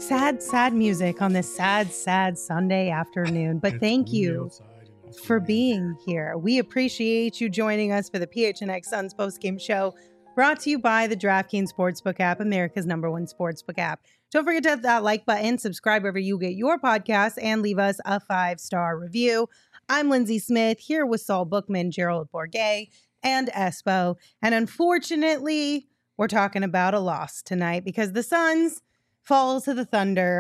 sad music on this sad Sunday afternoon. But thank you for being here. We appreciate you joining us for the PHNX Suns postgame show, brought to you by the DraftKings Sportsbook app, America's #1 sportsbook app. Don't forget to hit that like button, subscribe wherever you get your podcasts, and leave us a 5-star review. I'm Lindsay Smith, here with Saul Bookman, Gerald Bourget, and Espo. And unfortunately, we're talking about a loss tonight because the Suns fall to the Thunder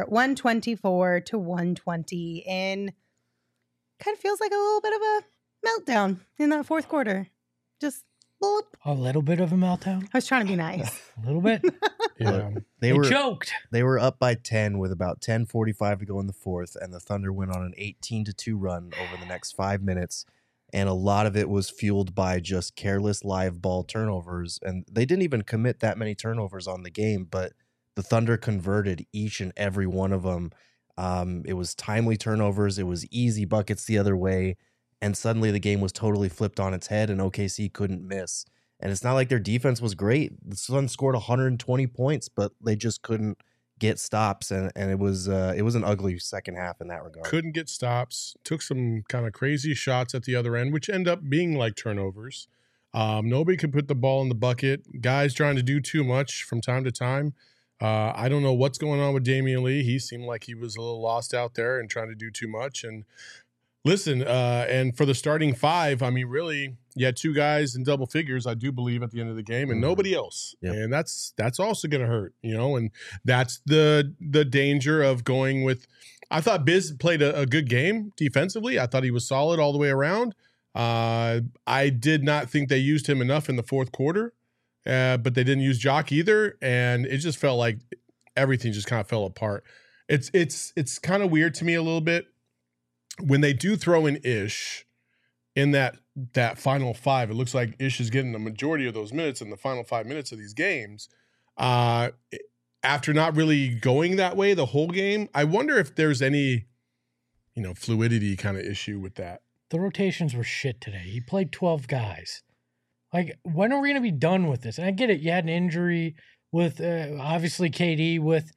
124-120 in kind of feels like a little bit of a meltdown in that fourth quarter. Just boop. A little bit of a meltdown? I was trying to be nice. A little bit? Yeah. They choked. They were up by 10 with about 10:45 to go in the fourth, and the Thunder went on an 18-2 run over the next 5 minutes. And a lot of it was fueled by just careless live ball turnovers. And they didn't even commit that many turnovers on the game, but the Thunder converted each and every one of them. It was timely turnovers. It was easy buckets the other way. And suddenly the game was totally flipped on its head and OKC couldn't miss. And it's not like their defense was great. The Suns scored 120 points, but they just couldn't get stops. And it was an ugly second half in that regard. Couldn't get stops. Took some kind of crazy shots at the other end, which end up being like turnovers. Nobody could put the ball in the bucket. Guys trying to do too much from time to time. I don't know what's going on with Damian Lee. He seemed like he was a little lost out there and trying to do too much. And listen, and for the starting five, I mean, really, you had two guys in double figures, I do believe, at the end of the game, and nobody else. Yep. And that's also going to hurt, and that's the danger of going with. I thought Biz played a good game defensively. I thought he was solid all the way around. I did not think they used him enough in the fourth quarter. But they didn't use Jock either, and it just felt like everything just kind of fell apart. It's kind of weird to me a little bit when they do throw in Ish in that final five. It looks like Ish is getting the majority of those minutes in the final 5 minutes of these games. After not really going that way the whole game, I wonder if there's any, fluidity kind of issue with that. The rotations were shit today. He played 12 guys. Like, when are we going to be done with this? And I get it. You had an injury with, obviously, KD with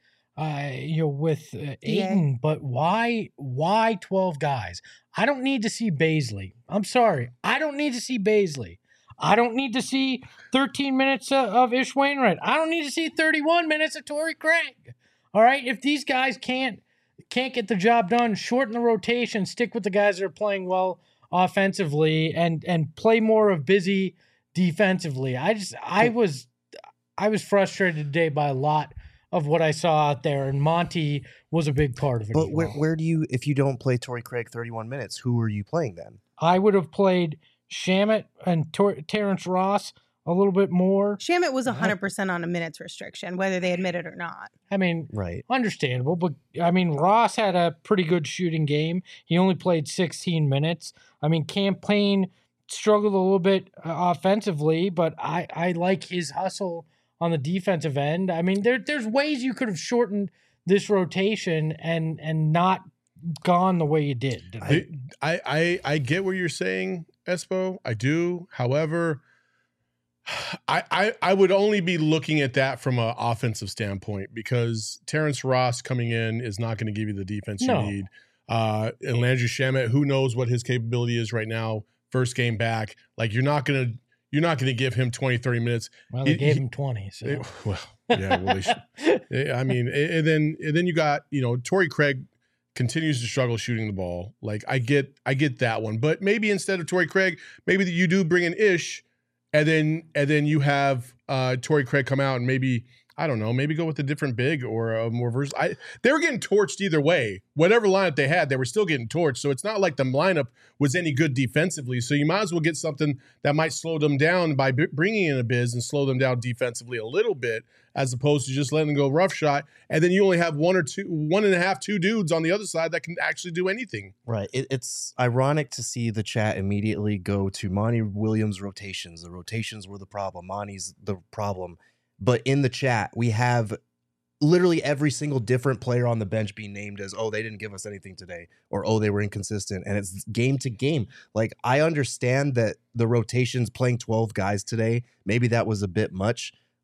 Ayton. But why 12 guys? I don't need to see Bazley. I'm sorry. I don't need to see Bazley. I don't need to see 13 minutes of Ish Wainwright. I don't need to see 31 minutes of Torrey Craig. All right? If these guys can't get the job done, shorten the rotation, stick with the guys that are playing well offensively, and play more of Busy defensively. I was frustrated today by a lot of what I saw out there, and Monty was a big part of it. But where do you, if you don't play Torrey Craig 31 minutes, who are you playing then? I would have played Shamet and Terrence Ross a little bit more. Shamet was 100% on a minutes restriction, whether they admit it or not. I mean, right, understandable, but I mean, Ross had a pretty good shooting game. He only played 16 minutes. I mean, Cam Payne struggled a little bit offensively, but I like his hustle on the defensive end. I mean, there's ways you could have shortened this rotation and not gone the way you did. I get what you're saying, Espo. I do. However, I would only be looking at that from an offensive standpoint, because Terrence Ross coming in is not going to give you the defense you need. And Landry Shamet, who knows what his capability is right now, first game back. Like, you're not gonna give him 20, 30 minutes. Well, they gave him 20. So. I mean, and then you got, Torrey Craig continues to struggle shooting the ball. Like, I get that one, but maybe instead of Torrey Craig, maybe you do bring in Ish, and then you have Torrey Craig come out and maybe, I don't know, maybe go with a different big or a more versatile. They were getting torched either way. Whatever lineup they had, they were still getting torched. So it's not like the lineup was any good defensively. So you might as well get something that might slow them down by bringing in a Biz and slow them down defensively a little bit, as opposed to just letting them go rough shot. And then you only have one and a half, two dudes on the other side that can actually do anything. Right. It's ironic to see the chat immediately go to Monty Williams' rotations. The rotations were the problem. Monty's the problem. But in the chat, we have literally every single different player on the bench being named as, oh, they didn't give us anything today, or, oh, they were inconsistent. And it's game to game. Like, I understand that the rotations playing 12 guys today, maybe that was a bit much,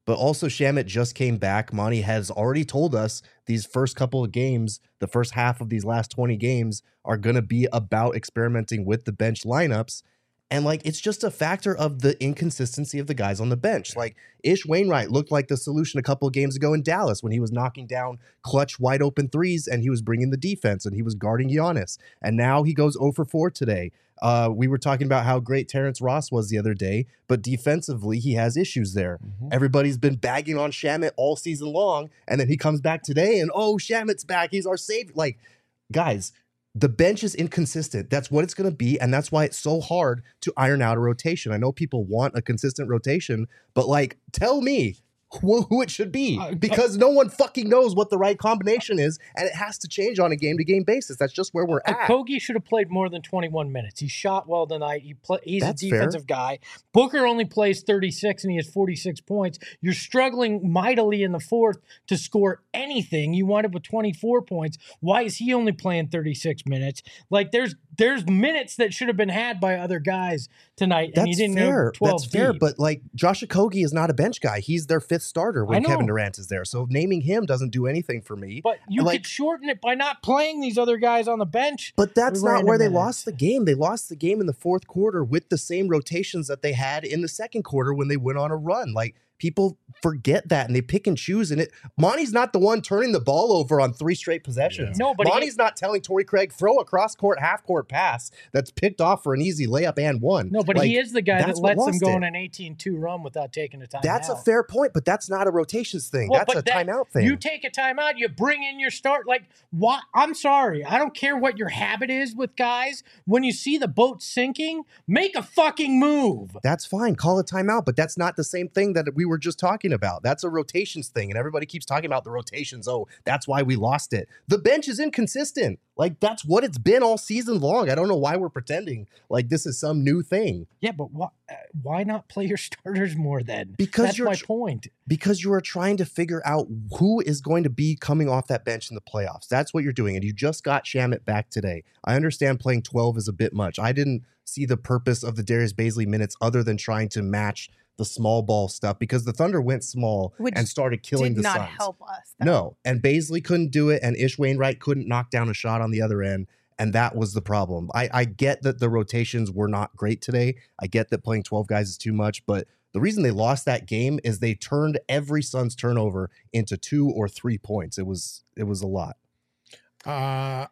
But also Shamet just came back. Monty has already told us these first couple of games, the first half of these last 20 games are going to be about experimenting with the bench lineups. And like, it's just a factor of the inconsistency of the guys on the bench. Like Ish Wainwright looked like the solution a couple of games ago in Dallas when he was knocking down clutch wide open threes and he was bringing the defense and he was guarding Giannis. And now he goes 0 for 4 today. We were talking about how great Terrence Ross was the other day, but defensively he has issues there. Everybody's been bagging on Shamet all season long, and then he comes back today and Shamet's back. He's our savior. Like, guys, the bench is inconsistent. That's what it's going to be, and that's why it's so hard to iron out a rotation. I know people want a consistent rotation, but like, tell me who it should be, because no one fucking knows what the right combination is, and it has to change on a game-to-game basis. That's just where we're at. Kogi should have played more than 21 minutes. He shot well tonight. He's a defensive guy. Booker only plays 36, and he has 46 points. You're struggling mightily in the fourth to score anything. You wind up with 24 points. Why is he only playing 36 minutes? Like, there's minutes that should have been had by other guys tonight, and he didn't go 12 That's fair, deep. but like, Josh Okogie is not a bench guy. He's their fifth starter when Kevin Durant is there. So naming him doesn't do anything for me. But you could shorten it by not playing these other guys on the bench. But that's not where they lost the game. They lost the game in the fourth quarter with the same rotations that they had in the second quarter when they went on a run. Like, people forget that and they pick and choose. And Monty's not the one turning the ball over on 3 straight possessions. No, but Monty's not telling Torrey Craig, throw a cross-court, half-court pass that's picked off for an easy layup and one. No, but he is the guy that lets them go on it. an 18-2 run without taking a timeout. That's a fair point, but that's not a rotations thing. That's a timeout thing. You take a timeout, you bring in your start. Like, what? I'm sorry. I don't care what your habit is with guys. When you see the boat sinking, make a fucking move. That's fine. Call a timeout, but that's not the same thing that we were just talking about. That's a rotations thing, and everybody keeps talking about the rotations. Oh, that's why we lost it. The bench is inconsistent. Like, that's what it's been all season long. I don't know why we're pretending like this is some new thing. Yeah, but why not play your starters more then? Because that's my point. Because you are trying to figure out who is going to be coming off that bench in the playoffs. That's what you're doing, and you just got Shamet back today. I understand playing 12 is a bit much. I didn't see the purpose of the Darius Bazley minutes other than trying to match the small ball stuff, because the Thunder went small and started killing the Suns. Did not help us, though. No, and Bazley couldn't do it, and Ish Wainwright couldn't knock down a shot on the other end, and that was the problem. I get that the rotations were not great today. I get that playing 12 guys is too much, but the reason they lost that game is they turned every Suns turnover into 2 or 3 points. It was a lot. I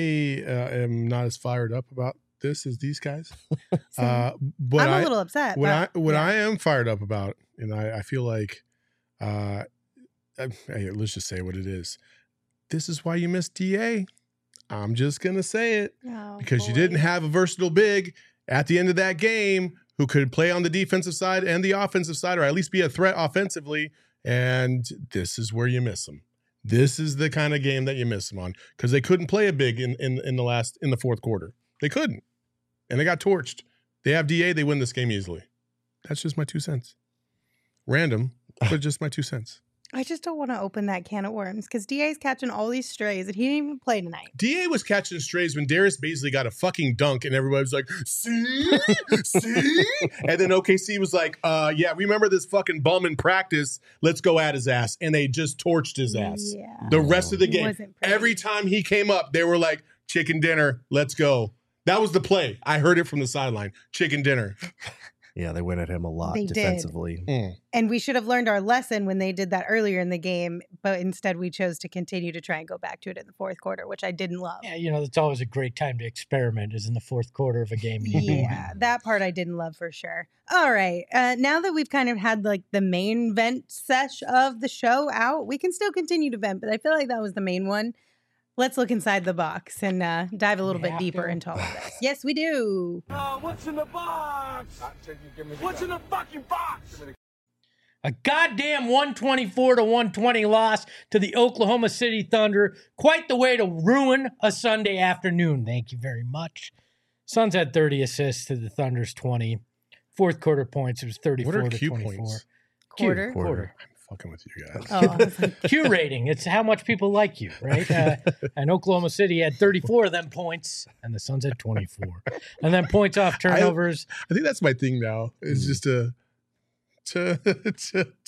am not as fired up about this as these guys. But I'm a little upset. What I am fired up about, and I feel like, hey, let's just say what it is. This is why you missed DA. I'm just gonna say it, because you didn't have a versatile big at the end of that game who could play on the defensive side and the offensive side, or at least be a threat offensively. And this is where you miss them. This is the kind of game that you miss them on, because they couldn't play a big in the fourth quarter. They couldn't. And they got torched. They have DA, they win this game easily. That's just my 2 cents. Random, but just my 2 cents. I just don't want to open that can of worms, because DA's catching all these strays and he didn't even play tonight. DA was catching strays when Darius Bazley got a fucking dunk and everybody was like, see? And then OKC was like, yeah, remember this fucking bum in practice? Let's go at his ass. And they just torched his ass. Yeah. The rest of the game. Wasn't pretty. Every time he came up, they were like, chicken dinner, let's go. That was the play. I heard it from the sideline. Chicken dinner. Yeah, they went at him a lot defensively. And we should have learned our lesson when they did that earlier in the game, but instead we chose to continue to try and go back to it in the fourth quarter, which I didn't love. Yeah, it's always a great time to experiment, is in the fourth quarter of a game. Yeah, that part I didn't love for sure. All right, now that we've kind of had like the main vent sesh of the show out, we can still continue to vent, but I feel like that was the main one. Let's look inside the box and dive a little bit deeper into all of this. Yes, we do. What's in the box? What's in the fucking box? A goddamn 124-120 loss to the Oklahoma City Thunder. Quite the way to ruin a Sunday afternoon. Thank you very much. Suns had 30 assists to the Thunder's 20. Fourth quarter points, it was 34 What are to Q 24. points? Quarter. I'm fucking with you guys. Oh, Q rating. It's how much people like you, right? And Oklahoma City had 34 of them points, and the Suns had 24. And then points off turnovers. I think that's my thing now, is just to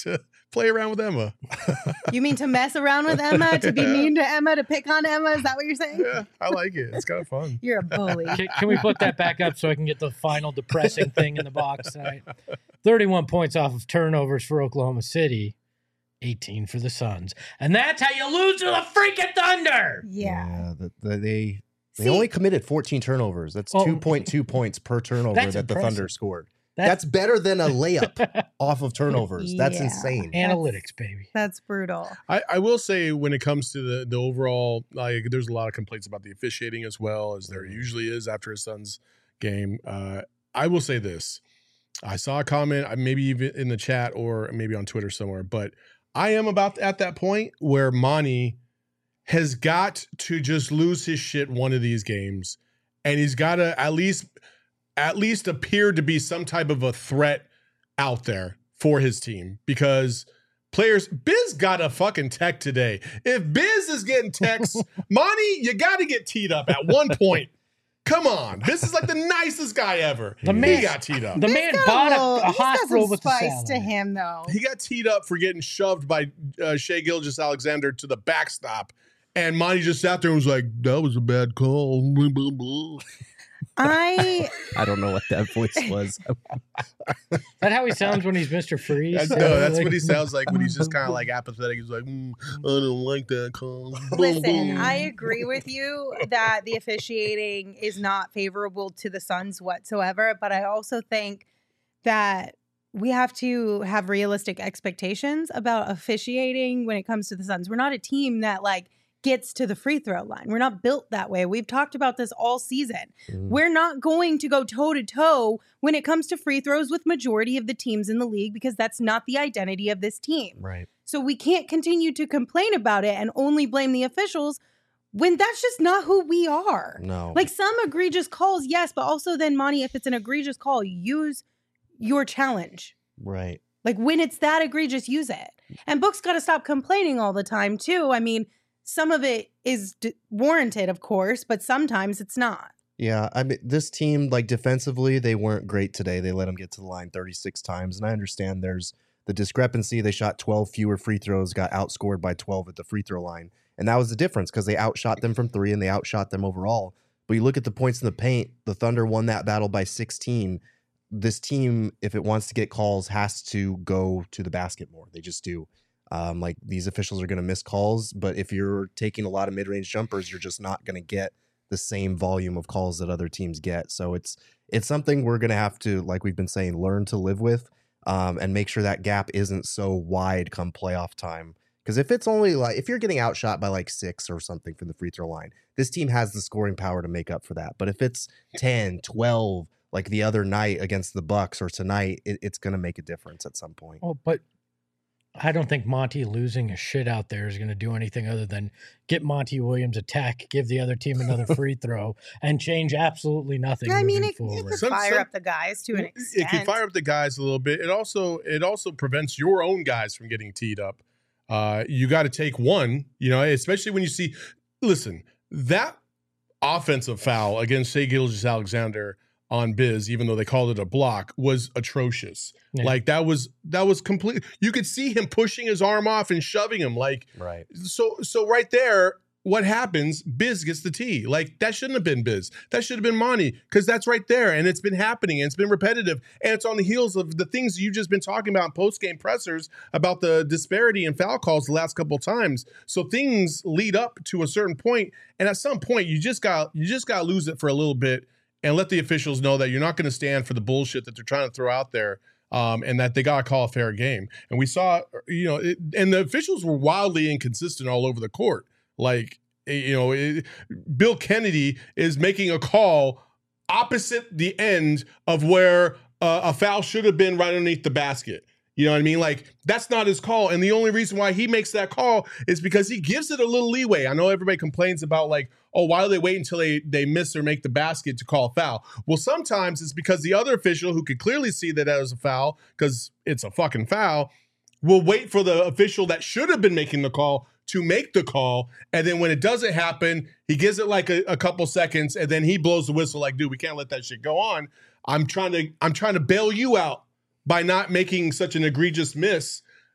Play around with Emma. You mean to mess around with Emma, to be mean to Emma, to pick on Emma? Is that what you're saying? Yeah, I like it. It's kind of fun. You're a bully. Can we put that back up so I can get the final depressing thing in the box tonight? 31 points off of turnovers for Oklahoma City, 18 for the Suns. And that's how you lose to the freaking Thunder. Yeah. They See- only committed 14 turnovers. That's 2.2 points per turnover That's that the impressive. Thunder scored. That's better than a layup off of turnovers. That's Yeah. insane. Analytics, baby. That's brutal. I will say when it comes to the overall, like there's a lot of complaints about the officiating as well as there usually is after a Suns game. I will say this. I saw a comment, maybe even in the chat or maybe on Twitter somewhere, but I am about at that point where Monty has got to just lose his shit one of these games, and he's got to at least appear to be some type of a threat out there for his team, because players, Biz got a fucking tech today. If Biz is getting texts, Monty, you got to get teed up at one point. Come on. This is like the nicest guy ever. The man- He got teed up. The man bought a He's got hospital some with the spice salad. to him, though. He got teed up for getting shoved by Shea Gilgeous-Alexander to the backstop. And Monty just sat there and was like, that was a bad call. Blah, blah, blah. I don't know what that voice was. Is that how he sounds when he's Mr. Freeze? That's what he sounds like when he's just kind of like apathetic. He's like, I don't like that call. listen. I agree with you that the officiating is not favorable to the Suns whatsoever, but I also think that we have to have realistic expectations about officiating when it comes to the Suns. We're not a team that gets to the free throw line. We're not built that way. We've talked about this all season. We're not going to go toe to toe when it comes to free throws with majority of the teams in the league, because that's not the identity of this team. Right. So we can't continue to complain about it and only blame the officials when that's just not who we are. No. Some egregious calls, yes, but also then, Monty, if it's an egregious call, use your challenge. Right. When it's that egregious, use it. And Book's got to stop complaining all the time, too. I mean, some of it is warranted, of course, but sometimes it's not. Yeah, I mean, this team, defensively, they weren't great today. They let them get to the line 36 times, and I understand there's the discrepancy. They shot 12 fewer free throws, got outscored by 12 at the free throw line, and that was the difference, because they outshot them from three and they outshot them overall. But you look at the points in the paint, the Thunder won that battle by 16. This team, if it wants to get calls, has to go to the basket more. They just do. These officials are going to miss calls, but if you're taking a lot of mid-range jumpers, you're just not going to get the same volume of calls that other teams get. So it's something we're going to have to, like we've been saying, learn to live with, and make sure that gap isn't so wide come playoff time. Because if it's only if you're getting outshot by 6 or something from the free throw line, this team has the scoring power to make up for that. But if it's 10, 12, like the other night against the Bucks or tonight, it's going to make a difference at some point. Oh, but I don't think Monty losing a shit out there is going to do anything other than get Monty Williams a tech, give the other team another free throw, and change absolutely nothing. I mean, moving it forward. could fire up the guys to an extent. It can fire up the guys a little bit. It also prevents your own guys from getting teed up. You got to take one, especially when you see, listen, that offensive foul against Shea Gilgeous-Alexander on Biz, even though they called it a block, was atrocious. Yeah. That was complete. You could see him pushing his arm off and shoving him. Right. So right there, what happens? Biz gets the tee. That shouldn't have been Biz. That should have been Monty, because that's right there, and it's been happening, and it's been repetitive, and it's on the heels of the things you've just been talking about in post-game pressers about the disparity in foul calls the last couple of times. So things lead up to a certain point, and at some point you just got to lose it for a little bit and let the officials know that you're not going to stand for the bullshit that they're trying to throw out there. And that they got to call a fair game. And we saw, and the officials were wildly inconsistent all over the court. Bill Kennedy is making a call opposite the end of where a foul should have been right underneath the basket. You know what I mean? That's not his call. And the only reason why he makes that call is because he gives it a little leeway. I know everybody complains about why do they wait until they miss or make the basket to call a foul? Well, sometimes it's because the other official, who could clearly see that was a foul because it's a fucking foul, will wait for the official that should have been making the call to make the call. And then when it doesn't happen, he gives it a couple seconds, and then he blows the whistle dude, we can't let that shit go on. I'm trying to bail you out by not making such an egregious miss.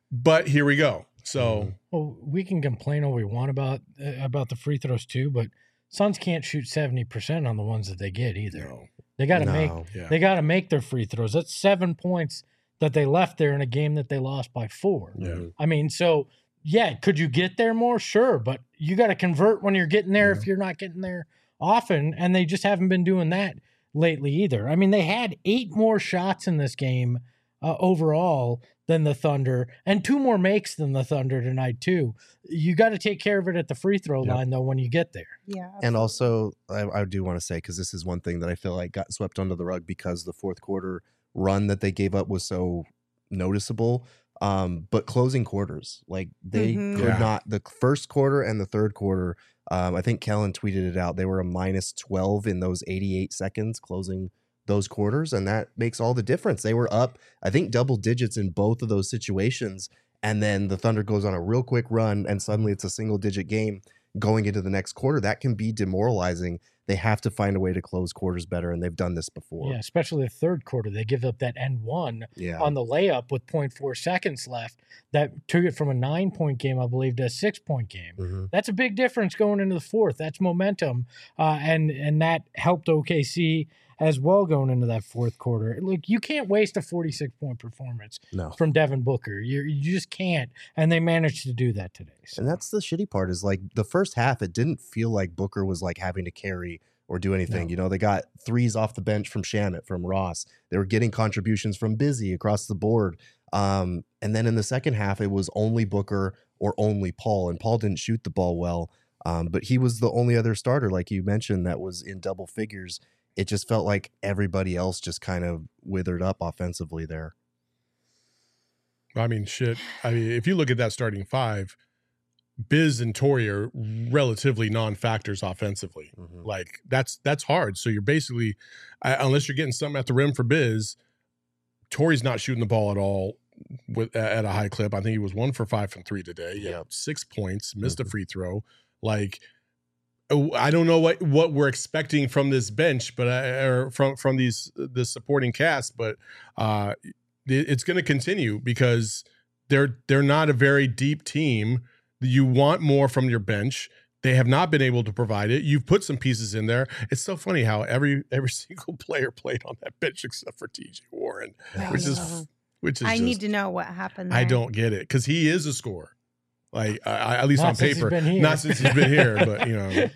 But here we go. So Well, we can complain all we want about the free throws too, but Suns can't shoot 70% on the ones that they get either. no. They got to No. Yeah. they got to make their free throws. That's 7 points that they left there in a game that they lost by 4. Yeah. I mean, so yeah, could you get there more? Sure, but you got to convert when you're getting there if you're not getting there often, and they just haven't been doing that lately either. I mean, they had 8 more shots in this game overall than the Thunder, and 2 more makes than the Thunder tonight too. You got to take care of it at the free throw line though when you get there. Yeah. And also, I do want to say, because this is one thing that I feel like got swept under the rug because the fourth quarter run that they gave up was so noticeable. But closing quarters, like they Mhm. could Yeah. not, the first quarter and the third quarter, I think Kellen tweeted it out. They were a -12 in those 88 seconds closing those quarters. And that makes all the difference. They were up, I think, double digits in both of those situations. And then the Thunder goes on a real quick run and suddenly it's a single digit game going into the next quarter. That can be demoralizing. They have to find a way to close quarters better. And they've done this before. Yeah, especially the third quarter. They give up that N1 Yeah. on the layup with 0.4 seconds left. That took it from a 9-point game, I believe, to a 6-point game. Mhm. That's a big difference going into the fourth. That's momentum, and that helped OKC as well going into that fourth quarter. Look, you can't waste a 46-point performance No. from Devin Booker. You just can't, and they managed to do that today. So. And that's the shitty part is like the first half, it didn't feel like Booker was like having to carry or do anything. No. You know, they got threes off the bench from Shamet, from Ross. They were getting contributions from Busy across the board. And then in the second half, it was only Booker or only Paul. And Paul didn't shoot the ball well. But he was the only other starter, like you mentioned, that was in double figures. It just felt like everybody else just kind of withered up offensively there. I mean, shit. I mean, if you look at that starting 5, Biz and Torrey are relatively non-factors offensively. Mhm. Like that's hard. So you're basically, unless you're getting something at the rim for Biz, Torrey's not shooting the ball at all at a high clip. I think he was 1 for 5 from 3 today. He had 6 points, missed a free throw. Like, I don't know what we're expecting from this bench, but or from this supporting cast, but it's going to continue because they're not a very deep team. You want more from your bench. They have not been able to provide it. You've put some pieces in there. It's so funny how every single player played on that bench except for TJ Warren, which is I need to know what happened there. I don't get it because he is a scorer. Like at least Not on since he's paper, been here. not since he's been here, but you know.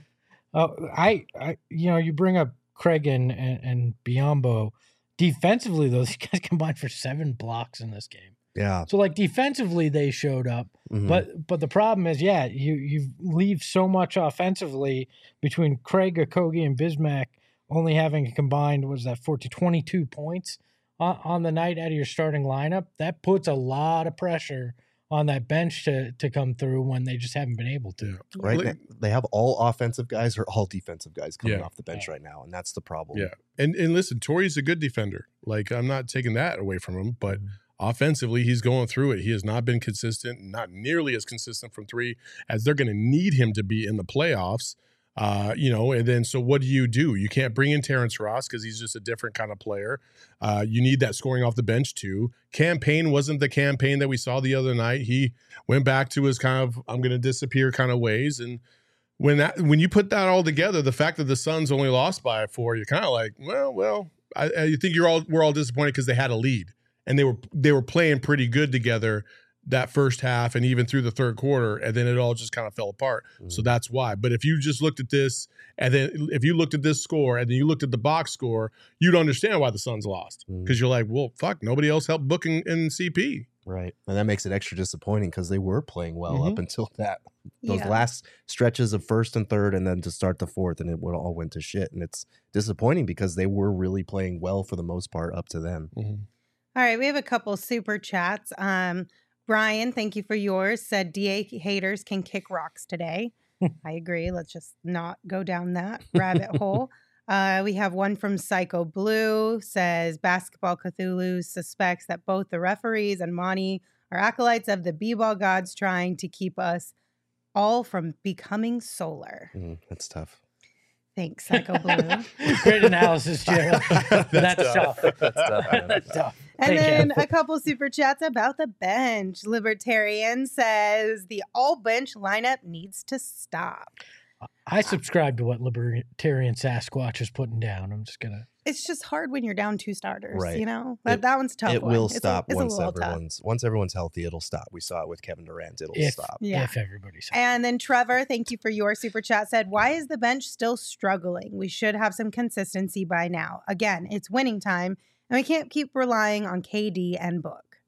I you bring up Craig and Biyombo. Defensively, though, these guys combined for 7 blocks in this game. Yeah. So, like, defensively, they showed up. Mhm. But the problem is, yeah, you leave so much offensively between Craig, Okogie, and Bismack only having combined, 22 points on the night out of your starting lineup. That puts a lot of pressure on that bench to come through when they just haven't been able to. Yeah. Right. Like- They have all offensive guys or all defensive guys coming Yeah. off the bench right now. And that's the problem. Yeah. And listen, Torrey's a good defender. Like, I'm not taking that away from him, but offensively, he's going through it. He has not been consistent, not nearly as consistent from 3 as they're going to need him to be in the playoffs. And then so what do? You can't bring in Terrence Ross because he's just a different kind of player. You need that scoring off the bench too. Campaign wasn't the campaign that we saw the other night. He went back to his kind of I'm going to disappear kind of ways. And when you put that all together, the fact that the Suns only lost by 4, you're kind of like, well, I think we're all disappointed because they had a lead and they were playing pretty good together that first half and even through the third quarter, and then it all just kind of fell apart. So that's why. But if you just looked at this, and then if you looked at this score, and then you looked at the box score, you'd understand why the Suns lost. Because you're like, well, fuck, nobody else helped book in CP. Right. And that makes it extra disappointing because they were playing well up until those Yeah. last stretches of first and third, and then to start the fourth, and it all went to shit. And it's disappointing because they were really playing well for the most part up to then. All right, we have a couple super chats. Brian, thank you for yours. Said DA haters can kick rocks today. I agree. Let's just not go down that rabbit hole. We have one from Psycho Blue. Says Basketball Cthulhu suspects that both the referees and Monty are acolytes of the b-ball gods trying to keep us all from becoming solar. That's tough. Thanks, Psycho Blue. Great analysis, Jared. That's tough. That's tough. Man. That's tough. And Thank then you. a couple super chats about the bench. Libertarian says the all bench lineup needs to stop. I subscribe to what Libertarian Sasquatch is putting down. I'm just gonna. It's just hard when you're down 2 starters, Right. you know? It- That one's a tough. It one. will It's a- stop it's a once little tough. everyone's healthy. It'll stop. We saw it with Kevin Durant. It'll If, stop. Yeah. if everybody's And then Trevor, thank you for your super chat, said, why is the bench still struggling? We should have some consistency by now. Again, it's winning time, and we can't keep relying on KD and Book.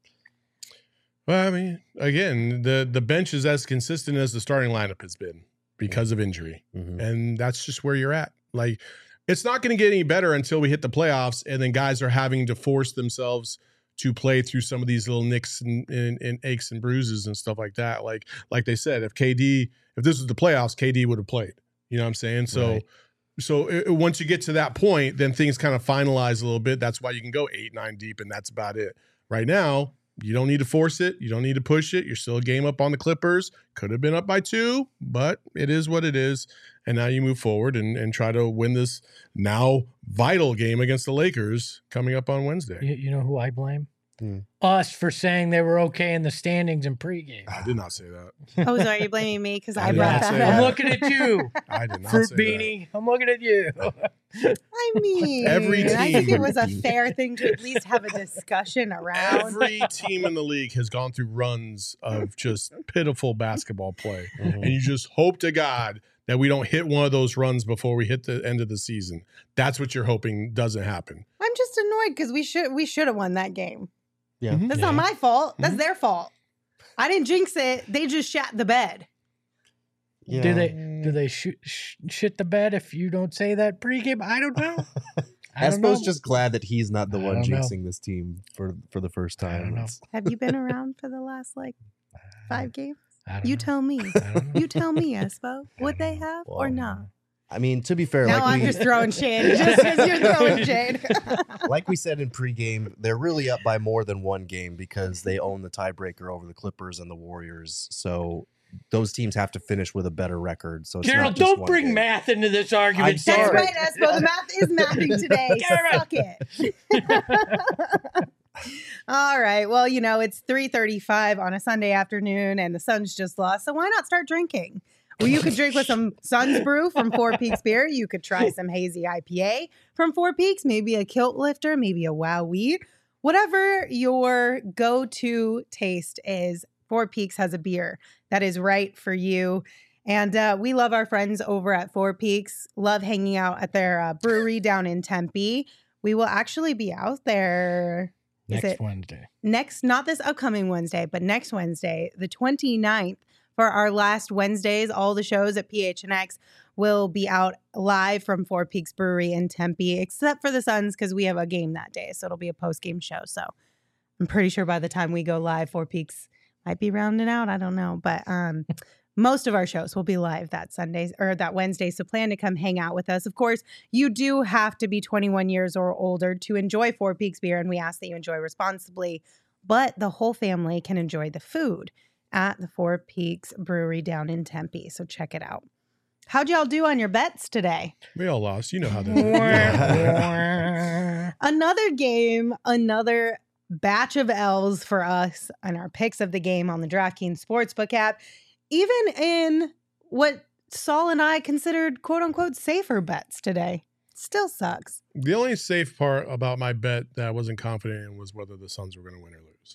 Well, I mean, again, the bench is as consistent as the starting lineup has been because of injury. Mhm. And that's just where you're at. Like, it's not going to get any better until we hit the playoffs, and then guys are having to force themselves to play through some of these little nicks and aches and bruises and stuff like that. Like they said, if this was the playoffs, KD would have played. You know what I'm saying? So, Right. once you get to that point, then things kind of finalize a little bit. That's why you can go 8-9 deep, and that's about it. Right now, you don't need to force it. You don't need to push it. You're still a game up on the Clippers. Could have been up by 2, but it is what it is. And now you move forward and try to win this now vital game against the Lakers coming up on Wednesday. You know who I blame? Hmm. Us for saying they were okay in the standings in pregame. I did not say that. Oh, sorry, you're blaming me because I I brought did not that say up. I'm that. looking at you, I did not fruit say that. beanie. I'm looking at you. I mean, Every I think team- it was a fair thing to at least have a discussion around. Every team in the league has gone through runs of just pitiful basketball play. Mhm. And you just hope to God that we don't hit one of those runs before we hit the end of the season. That's what you're hoping doesn't happen. I'm just annoyed because we should have won that game. Yeah. Mhm. That's Yeah. not my fault. That's their fault. I didn't jinx it. They just shat the bed. Yeah. Do they shit the bed if you don't say that pregame? I don't know. I don't Espo's know. just glad that he's not the I one don't know. jinxing this team for the first I time. don't know. It's- Have you been around for the last 5 games? I don't You know. tell me. I don't know. You tell me, Espo. Would they have or Well, not? I mean, to be fair, Now I'm just throwing shade. Just because you're throwing shade. like we said in pregame, they're really up by more than one game because they own the tiebreaker over the Clippers and the Warriors. So those teams have to finish with a better record. So it's Carol, not just don't one bring game. math into this argument. I'm That's sorry. right, Espo. The math is mathing today. Suck it. All right. Well, it's 3:35 on a Sunday afternoon and the Suns just lost. So why not start drinking? Well, you could drink with some Suns Brew from Four Peaks Beer. You could try some hazy IPA from Four Peaks, maybe a Kilt Lifter, maybe a Wow Weed. Whatever your go-to taste is, Four Peaks has a beer that is right for you. And we love our friends over at Four Peaks, love hanging out at their brewery down in Tempe. We will actually be out there Next Wednesday. not this upcoming Wednesday, but next Wednesday, the 29th, for our last Wednesdays. All the shows at PHNX will be out live from Four Peaks Brewery in Tempe, except for the Suns because we have a game that day. So it'll be a post-game show. So I'm pretty sure by the time we go live, Four Peaks might be rounding out. I don't know. But most of our shows will be live that Sunday or that Wednesday. So plan to come hang out with us. Of course, you do have to be 21 years or older to enjoy Four Peaks beer, and we ask that you enjoy responsibly. But the whole family can enjoy the food at the Four Peaks Brewery down in Tempe. So check it out. How'd y'all do on your bets today? We all lost. You know how that is. Another game, another batch of L's for us and our picks of the game on the DraftKings Sportsbook app. Even in what Saul and I considered quote unquote safer bets today. Still sucks. The only safe part about my bet that I wasn't confident in was whether the Suns were going to win or lose.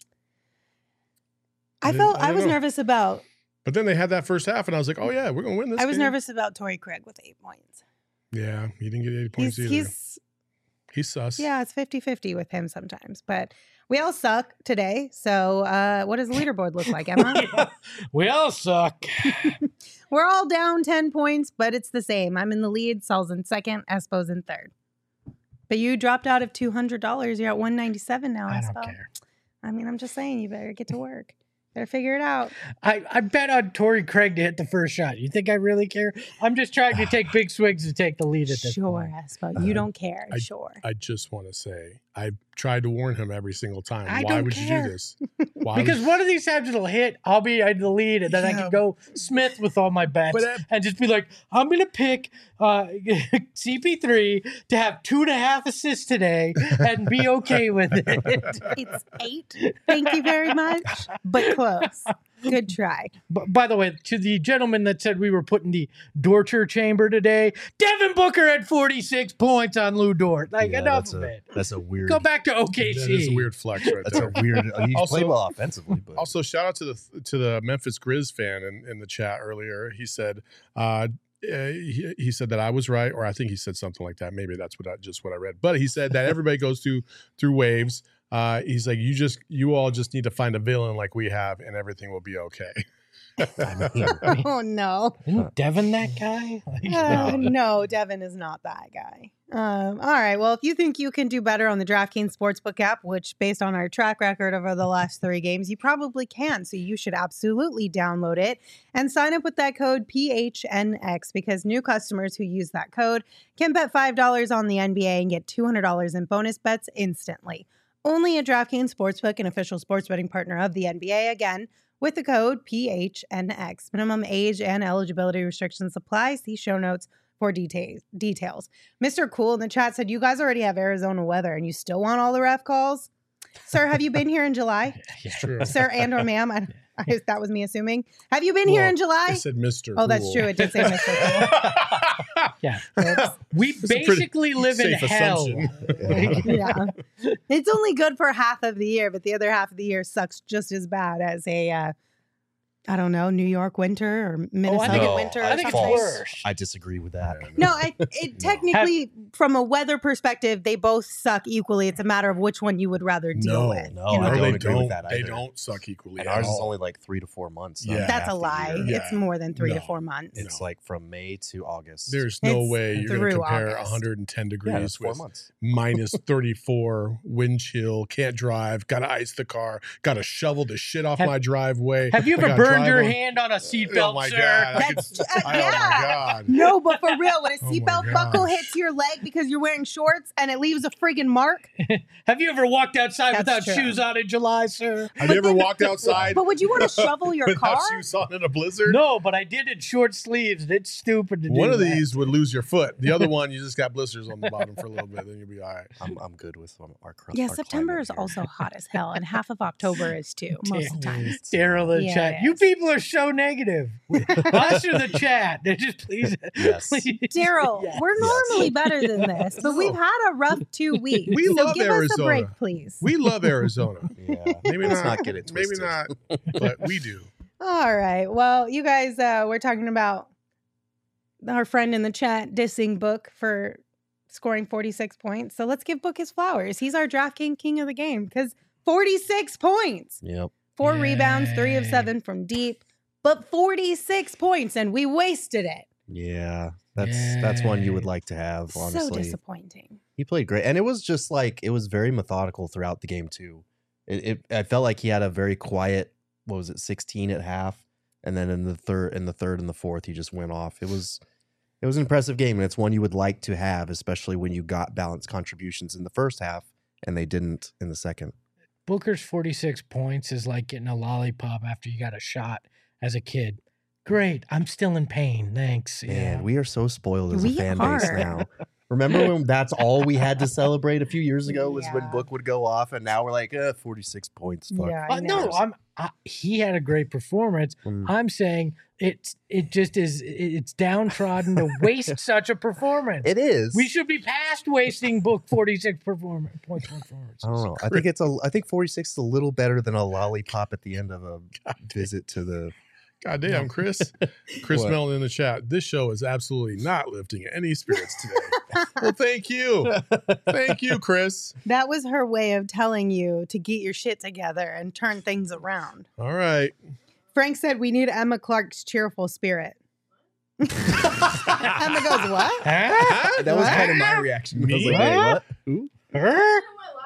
I didn't was know. nervous about But then they had that first half, and I was like, oh, yeah, we're going to win this I was game. nervous about Torrey Craig with 8 points. Yeah, he didn't get 80 points either. He's sus. Yeah, it's 50-50 with him sometimes. But we all suck today. So what does the leaderboard look like, Emma? We all suck. We're all down 10 points, but it's the same. I'm in the lead. Saul's in second. Espo's in third. But you dropped out of $200. You're at 197 now, I Espo. don't care. I mean, I'm just saying you better get to work. Better figure it out. I bet on Torrey Craig to hit the first shot. You think I really care? I'm just trying to take big swings to take the lead at this Sure, point. Espo. You don't care. Sure. I just want to say, I tried to warn him every single time. I Why don't would care. you do this? Why Because would- one of these times it'll hit, I'll be in the lead, and then I can go Smith with all my bets and just be like, I'm going to pick CP3 to have 2.5 assists today and be okay with it. It's 8. Thank you very much, but close. Good try. By the way, to the gentleman that said we were putting the torture chamber today, Devin Booker had 46 points on Lou Dort. Like, Yeah, enough of it. That's a weird. Go back to OKC. That is a weird flex right That's there. a weird. He Also- played well offensively, but Also, shout out to the Memphis Grizz fan in the chat earlier. He said he said that I was right, or I think he said something like that. Maybe that's what I read. But he said that everybody goes through waves. He's like, you all just need to find a villain like we have, and everything will be okay. I mean, Oh, no. Isn't Devin that guy? No, Devin is not that guy. All right. Well, if you think you can do better on the DraftKings Sportsbook app, which based on our track record over the last 3 games, you probably can. So you should absolutely download it and sign up with that code PHNX because new customers who use that code can bet $5 on the NBA and get $200 in bonus bets instantly. Only at DraftKings Sportsbook, an official sports betting partner of the NBA. Again, with the code PHNX. Minimum age and eligibility restrictions apply. See show notes for details. Mr. Cool in the chat said, you guys already have Arizona weather and you still want all the ref calls? Sir, have you been here in July? It's true. Sir and or ma'am? That was me assuming. Have you been here in I July? said Mr. Oh, that's Cool. true. It did say Mr. Cool. Yeah. Oops. We It's a pretty basically live in safe hell. assumption. Yeah. It's only good for half of the year, but the other half of the year sucks just as bad as a, I don't know, New York winter or Minnesota think No, winter. I or think it's something. worse. I disagree with that. No, it technically, from a weather perspective, they both suck equally. It's a matter of which one you would rather deal No, with. no, you know? I No, don't they agree with don't. that They either. don't suck equally. And at ours is all. only like 3 to 4 months. Yeah. not That's half a the lie. year. Yeah. It's more than 3 to No. 4 months. It's like from May to August. There's no It's way you're going through to compare August. 110 yeah, degrees that's 4 with months. minus 34 wind chill, can't drive, got to ice the car, got to shovel the shit off my driveway. Have you I ever gotta burned drive your on- hand on a seatbelt, Oh my sir? God. That's Oh my yeah. God. No, but for real, when a Oh my seatbelt buckle gosh. hits your leg because you're wearing shorts and it leaves a friggin' mark. Have you ever walked outside That's without true. shoes on in July, sir? Have you ever walked outside But would you want to shovel your without car? shoes on in a blizzard? No, but I did in short sleeves. And it's stupid to do One of that. these would lose your foot. The other one, you just got blisters on the bottom for a little bit, then you'll be all right. I'm good with our Yeah, our September climate is here. also hot as hell, and half of October is too, most of the time. Daryl in the Yeah, chat. it You is. people are so negative. Us or the chat. They just please. Yes. please. Daryl, Yes. we're normally better than this, but we've had a rough 2 weeks. We so love give us a Arizona. break, please. We love Arizona. Yeah. Maybe Let's not. not get it Maybe twisted. not, but we do. All right. Well, you guys, we're talking about our friend in the chat dissing Book for scoring 46 points. So let's give Book his flowers. He's our DraftKings king of the game because 46 points. Yep. 4 rebounds, 3 of Yay. 7 from deep, but 46 points, and we wasted it. Yeah. That's one you would like to have, So honestly. disappointing. He played great. And it was just like it was very methodical throughout the game too. I felt like he had a very quiet, 16 at half. And then in the third and the fourth, he just went off. It was an impressive game, and it's one you would like to have, especially when you got balanced contributions in the first half and they didn't in the second. Booker's 46 points is like getting a lollipop after you got a shot as a kid. Great. I'm still in pain. Thanks. Man, Yeah. we are so spoiled as a We fan base are. now. Remember when that's all we had to celebrate a few years ago was when Yeah. Book would go off, and now we're like, 46 points. Fuck. Yeah, I No, know. he had a great performance. Mm. I'm saying it just is. It's downtrodden to waste such a performance. It is. We should be past wasting Book 46 points performances. I don't know. I think 46 is a little better than a lollipop at the end of a visit to the. God damn, Chris. Chris What? Mellon in the chat. This show is absolutely not lifting any spirits today. Well, thank you. Thank you, Chris. That was her way of telling you to get your shit together and turn things around. All right. Frank said we need Emma Clark's cheerful spirit. Emma goes, what? Huh? That was kind of my reaction. I was Me? like, wait, what? Who? Huh?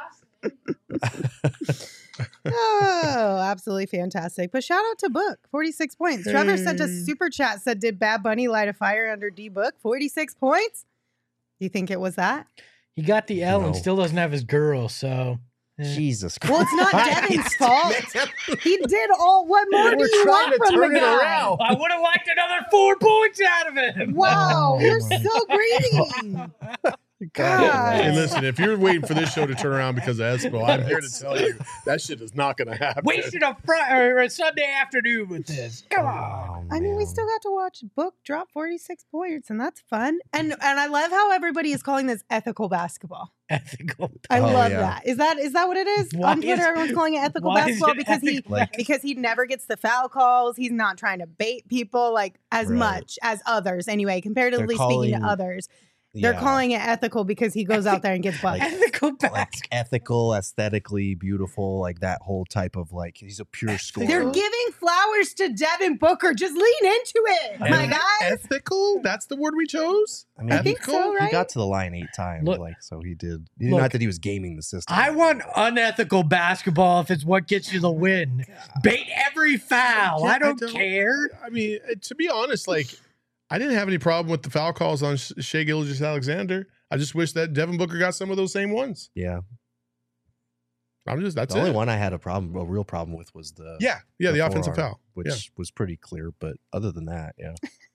Oh, absolutely fantastic. But shout out to Book, 46 points. Trevor sent a super chat, said, did Bad Bunny light a fire under D Book? 46 points? You think it was that? He got the L and No. still doesn't have his girl, so Jesus Christ. Well, it's not Devin's fault. He did all. What more do We're you trying want to from turn the it guy? around. I would have liked another 4 points out of him. Wow, Oh, you're my so greedy. God. Hey, listen, if you're waiting for this show to turn around because of Espo, I'm here to tell you that shit is not going to happen. Wasted a Sunday afternoon with this. Come on. Oh, I mean, we man. still got to watch Book drop 46 points, and that's fun. And I love how everybody is calling this ethical basketball. Ethical. I Oh, love yeah. that. Is that what it is? Why On Twitter, is- everyone's calling it ethical why is basketball it because Like- because he never gets the foul calls. He's not trying to bait people like as Right. much as others. Anyway, comparatively speaking to calling- others, they're Yeah. calling it ethical because he goes out there and gets buckets. Ethical like basketball. ethical, aesthetically beautiful, like that whole type of like he's a pure scorer. They're giving flowers to Devin Booker. Just lean into it, my And guy. ethical? That's the word we chose? I mean, I think so, right? He got to the line 8 times, Look- like so he did. Look, Not that he was gaming the system. I want unethical basketball if it's what gets you the win. Bait every foul. Yeah, I don't care. I mean, to be honest, like, I didn't have any problem with the foul calls on Shai Gilgeous-Alexander. I just wish that Devin Booker got some of those same ones. Yeah, That's the it. only one I had a real problem with was the the offensive forearm, foul. which Yeah. was pretty clear. But other than that, yeah,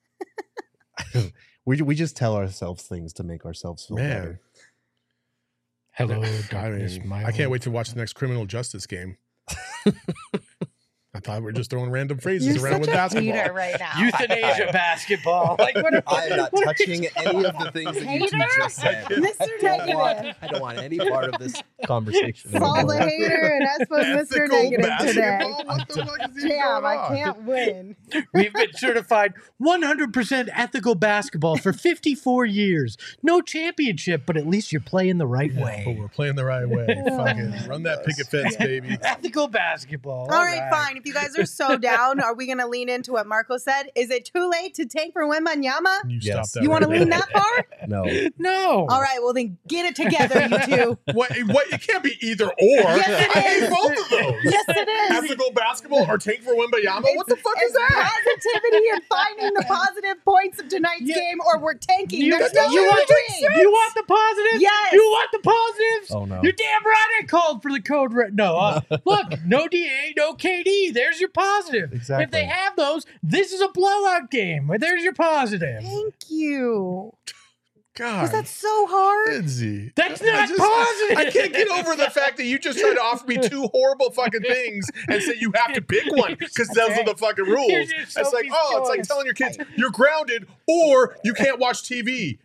we just tell ourselves things to make ourselves feel Man. better. Hello, I darkness, mean, my I can't old- wait to watch the next criminal justice game. I thought we were just throwing random phrases You're around with such a basketball. hater right now. Euthanasia basketball. Like what? I am not what are touching you any of the things that you two Hater? just said. Mr. Negative. I don't want any part of this conversation. Saul the anymore. hater and Espo's Mr. Ethical Negative today. basketball? What the fuck is even Damn, going I on? can't win. We've been certified 100% ethical basketball for 54 years. No championship, but at least you're playing the right But way. we're playing the right way. Fucking run that picket fence, baby. Ethical basketball. All right, fine. If you guys are so down, are we going to lean into what Marco said? Is it too late to tank for Wembanyama? You Yes. stop that. You want to right lean there. that far? No, No. All right, well then get it together, you two. What? It can't be either or. Yes, it I hate is. both of those. Yes, it is. Ethical basketball or tank for Wembanyama? What the fuck is It's that? positivity and finding the positive points of tonight's Yeah. game, or we're tanking. You, There's no you in want, between. you want the positives? Yes. You want the positives? Oh, no. You're damn right I called for the code red. No, look, no DA, no KD. There's your positive. Exactly. If they have those, this is a blowout game. There's your positive. Thank you. God. Was that so hard? Lindsay. That's I not positive. I can't get over the fact that you just tried to offer me two horrible fucking things and say you have to pick one because those are the fucking rules. Here's your It's like, Sophie's it's like choice. telling your kids you're grounded or you can't watch TV.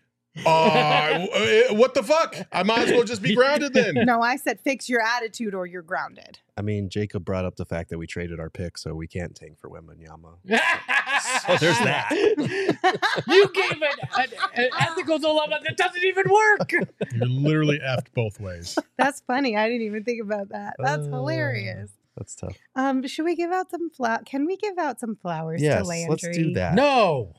What the fuck? I might as well just be grounded then. No, I said fix your attitude or you're grounded. I mean, Jacob brought up the fact that we traded our pick, so we can't tank for Wembanyama. So there's that. You gave an ethical dilemma that doesn't even work. You're literally effed both ways. That's funny. I didn't even think about that. That's hilarious. That's tough. Should we give out some Can we give out some flowers Yes, to Landry? let's do that. No.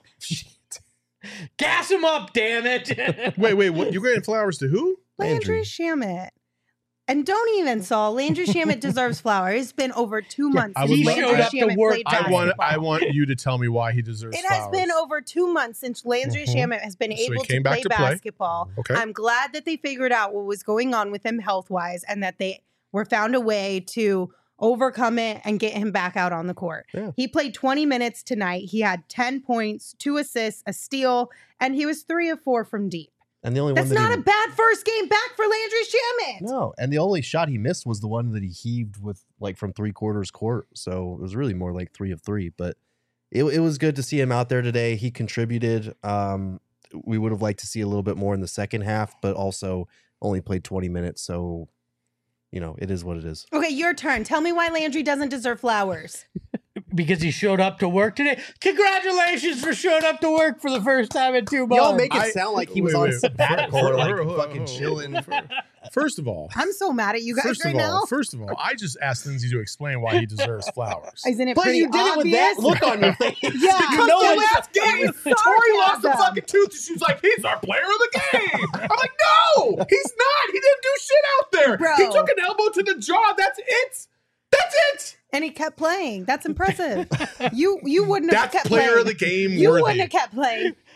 Gas him up, damn it. Wait, what? You're getting flowers to who? Landry Shamet. And don't even, Saul. Landry Shamet deserves flowers. It's been over 2 months I since would Landry love- He showed up to Shamet work. played I basketball. want you to tell me why he deserves It has flowers. been over 2 months since Landry Mhm. Shamet has been So he able to came back play to play. basketball. Okay. I'm glad that they figured out what was going on with him health-wise and that they were found a way to overcome it and get him back out on the court. Yeah. He played 20 minutes tonight. He had 10 points, 2 assists, a steal, and he was 3 of 4 from deep. And the only That's one that not he, a bad first game back for Landry Shamet. No, and the only shot he missed was the one that he heaved with like from 3/4 court. So it was really more like 3 of 3. But it was good to see him out there today. He contributed. We would have liked to see a little bit more in the second half, but also only played 20 minutes. So, it is what it is. Okay, your turn. Tell me why Landry doesn't deserve flowers. Because he showed up to work today. Congratulations for showing up to work for the first time in 2 months. Y'all make it sound like he was on sabbatical or like Hold on, fucking hold on. chilling. First of all, I'm so mad at you guys right now. First of all, I just asked Lindsay to explain why he deserves flowers. Isn't it But pretty you did it with that obvious? look on your face. Yeah, you know it it's was- it was Tori lost the sarcasm. fucking tooth. And she's like, he's our player of the game. I'm like, no, he's not. He didn't do shit out there. Bro. He took an elbow to the jaw. That's it. That's it. And he kept playing. That's impressive. You wouldn't have That's kept player playing. of the game You worthy. wouldn't have kept playing.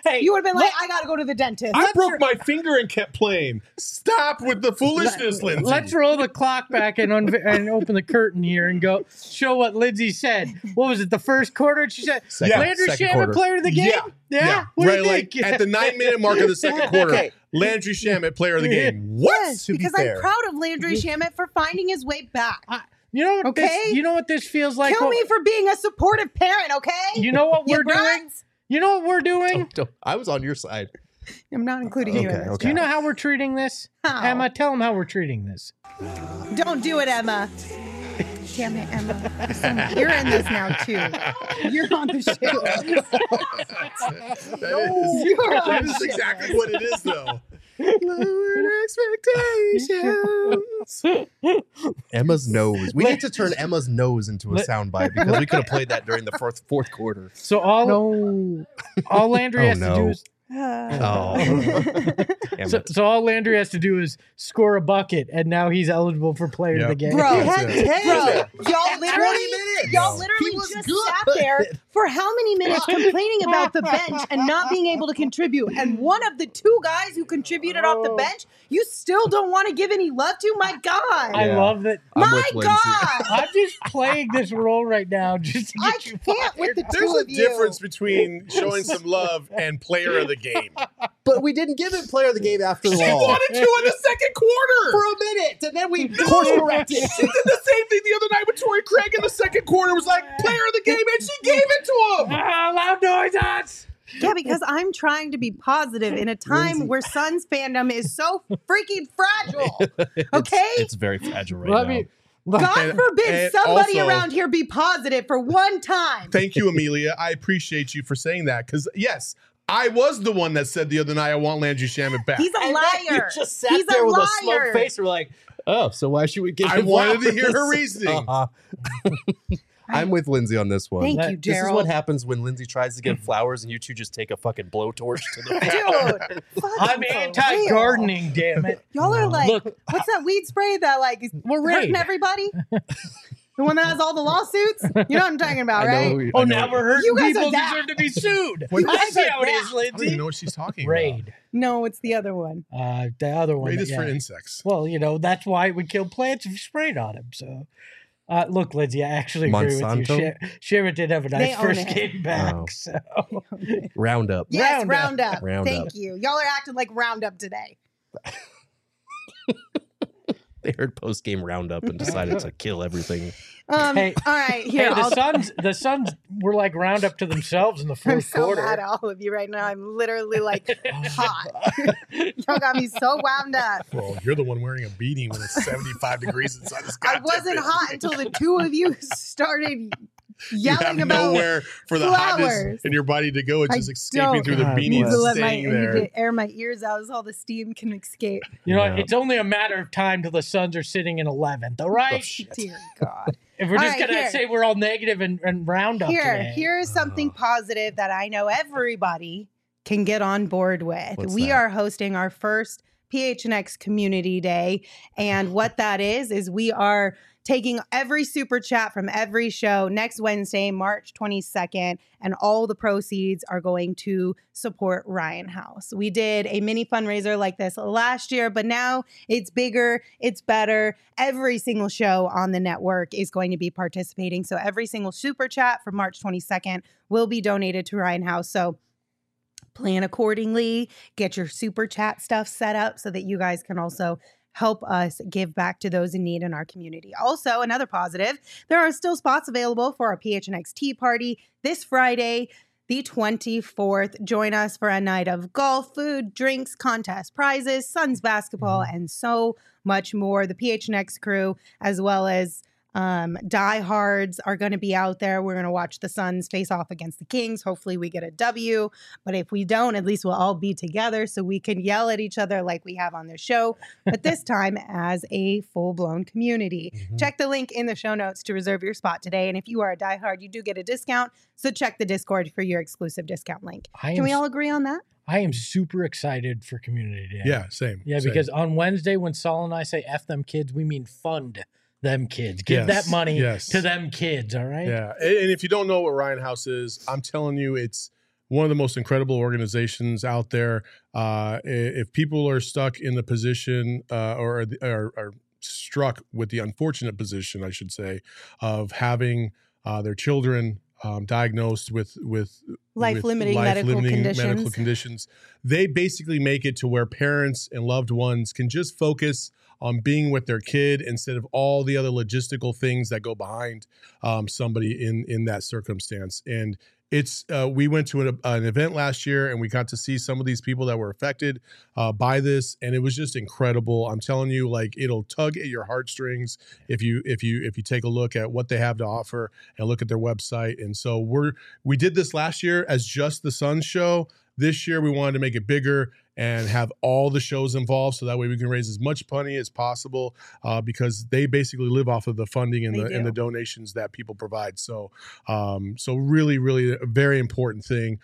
Hey, you would have been like, I got to go to the dentist. I broke my finger and kept playing. Stop with the foolishness, Lindsay. Let's roll the clock back and open the curtain here and go show what Lindsay said. What was it? The first quarter? She said, Landry second Shamet, quarter. player of the game? Yeah. What do Right, you think? like at the 9-minute mark of the second quarter, Landry Shamet, player of the game. What? Yes, To be because fair. I'm proud of Landry Shamet for finding his way back. You know what? Okay. You know what this feels like? Kill me for being a supportive parent, okay? You know what You we're doing? brats? You know what we're doing? I was on your side. I'm not including you in Okay, this. Do you know how we're treating this? How? Emma, tell them how we're treating this. Don't do it, Emma. Damn it, Emma. You're in this now, too. You're on the show. That is exactly what it is, though. Lowered expectations. Emma's nose. We need to turn Emma's nose into a soundbite because we could have played that during the fourth quarter. So all Landry has to do is Oh. Damn it. so all Landry has to do is score a bucket, and now he's eligible for player of the game. Bro, That's it. y'all literally He was just good. sat there for how many minutes complaining about the bench and not being able to contribute. And one of the two guys who contributed off the bench, you still don't want to give any love to? My God. I love that. I'm My with Lindsay. God. I'm just playing this role right now just to I get you can't with fired. the There's two a of you. difference between showing some love and player of the game. But we didn't give it player of the game after She all. wanted to in the second quarter. For a minute, and then we course corrected. She did the same thing the other night with Torrey Craig in the second quarter. Was like player of the game, and she gave it to him. Loud noises. Yeah, because I'm trying to be positive in a time where Suns fandom is so freaking fragile. Okay? It's very fragile right Let now. me. God forbid and somebody also- around here be positive for one time. Thank you, Amelia. I appreciate you for saying that because yes, I was the one that said the other night I want Landry Shamet back. He's a And then you liar. just sat He's there a with a liar. smug face. We're like, oh, so why should we give I him wanted to flowers? hear her reasoning. I'm with Lindsay on this one. Thank you, This is Gerald. what happens when Lindsay tries to give flowers and you two just take a fucking blowtorch to the face. Dude, I'm fucking for anti-gardening, damn it. real. Y'all are like, Look. what's that weed spray that like is We're hurting Raid. everybody? The one that has all the lawsuits? You know what I'm talking about, right? Oh, now we're hurting You guys are people that. deserve to be sued. When- I see are how it that. is, I don't even Lindsay. know what she's talking Raid. No, it's the other one. The other one. Raid is yeah. for insects. Well, that's why it would kill plants if you sprayed on them. So, look, Lindsay, I actually agree Monsanto? with you. Shara did have a They nice own first it. game back. Oh. So, Roundup. Yes, Roundup. Roundup. Roundup. Thank you. Y'all are acting like Roundup today. They heard post game roundup and decided to kill everything. Hey. All right, here. hey, I'll, the Suns were like round up to themselves in the I'm fourth so quarter. mad at all of you right now. I'm literally like hot. Y'all got me so wound up. Well, you're the one wearing a beanie when it's 75 degrees inside this I goddamn wasn't thing. hot until the two of you started You have yelling about nowhere for the flowers. hotness in your body to go. It's I just escaping don't. through the God I need beanie to and let staying I need there. to air my ears out so all the steam can escape. Yeah. It's only a matter of time till the Suns are sitting in 11th. All right. Dear God. If we're All just right, gonna here. say we're all negative and round up today. Here's something positive that I know everybody can get on board with. What's We that? are hosting our first PHNX Community Day. And what that is we are taking every super chat from every show next Wednesday, March 22nd, and all the proceeds are going to support Ryan House. We did a mini fundraiser like this last year, but now it's bigger, it's better. Every single show on the network is going to be participating. So every single super chat from March 22nd will be donated to Ryan House. So plan accordingly, get your super chat stuff set up so that you guys can also help us give back to those in need in our community. Also, another positive, there are still spots available for our PHNX Tea Party this Friday, the 24th. Join us for a night of golf, food, drinks, contests, prizes, Suns basketball, and so much more. The PHNX crew, as well as diehards, are going to be out there. We're going to watch the Suns face off against the Kings. Hopefully we get a W, but if we don't, at least we'll all be together so we can yell at each other like we have on the show, but this time as a full-blown community. Check the link in the show notes to reserve your spot today, and if you are a diehard, you do get a discount, so check the Discord for your exclusive discount link. Can we all agree on that? I am super excited for Community Day. Yeah, same. Yeah, same. because on Wednesday when Saul and I say F them kids, we mean fund them kids. Give Yes, that money yes. to them kids, all right? Yeah, and if you don't know what Ryan House is, I'm telling you, it's one of the most incredible organizations out there. If people are stuck in the position or are struck with the unfortunate position, I should say, of having their children diagnosed with life-limiting medical conditions, they basically make it to where parents and loved ones can just focus on being with their kid instead of all the other logistical things that go behind somebody in that circumstance. And it's we went to an event last year and we got to see some of these people that were affected by this, and it was just incredible. I'm telling you, like, it'll tug at your heartstrings if you take a look at what they have to offer and look at their website. And so we did this last year as just the Suns show. This year we wanted to make it bigger and have all the shows involved, so that way we can raise as much money as possible because they basically live off of the funding and the donations that people provide. So really, really a very important thing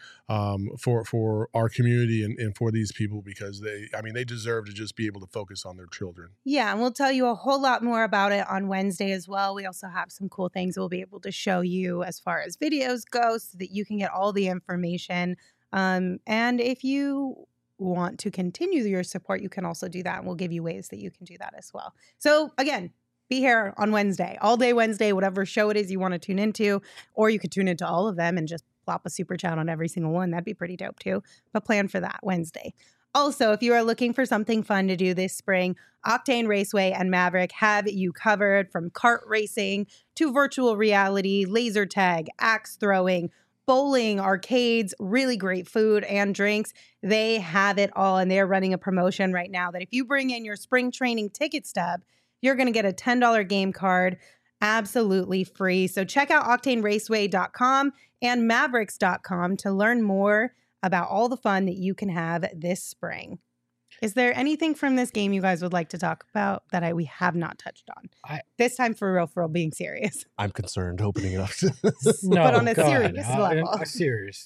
for our community and for these people, because they deserve to just be able to focus on their children. Yeah, and we'll tell you a whole lot more about it on Wednesday as well. We also have some cool things we'll be able to show you as far as videos go, so that you can get all the information. And if you want to continue your support, you can also do that, and we'll give you ways that you can do that as well. So again, be here on Wednesday, all day Wednesday, whatever show it is you want to tune into, or you could tune into all of them and just plop a super chat on every single one. That'd be pretty dope too. But plan for that Wednesday. Also, if you are looking for something fun to do this spring, Octane Raceway and Maverick have you covered, from kart racing to virtual reality, laser tag, axe throwing, bowling, arcades, really great food and drinks. They have it all, and they're running a promotion right now that if you bring in your spring training ticket stub, you're going to get a $10 game card absolutely free. So check out octaneraceway.com and mavericks.com to learn more about all the fun that you can have this spring. Is there anything from this game you guys would like to talk about that we have not touched on? This time, for real, being serious. I'm concerned opening it up. No, but on a serious level. Serious.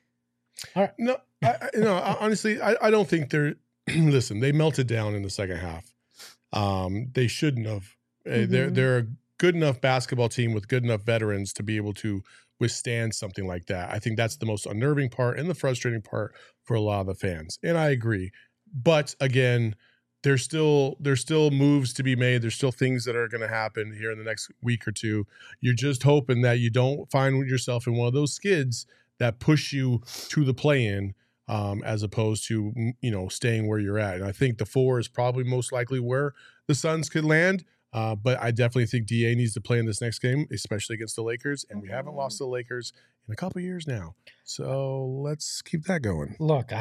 All right. No, honestly, I don't think they're. Listen, they melted down in the second half. They shouldn't have. They're a good enough basketball team with good enough veterans to be able to withstand something like that. I think that's the most unnerving part and the frustrating part for a lot of the fans. And I agree. But again, there's still moves to be made. There's still things that are going to happen here in the next week or two. You're just hoping that you don't find yourself in one of those skids that push you to the play-in, as opposed to, staying where you're at. And I think the 4 is probably most likely where the Suns could land. But I definitely think DA needs to play in this next game, especially against the Lakers. And we haven't lost to the Lakers in a couple of years now. So let's keep that going. Look,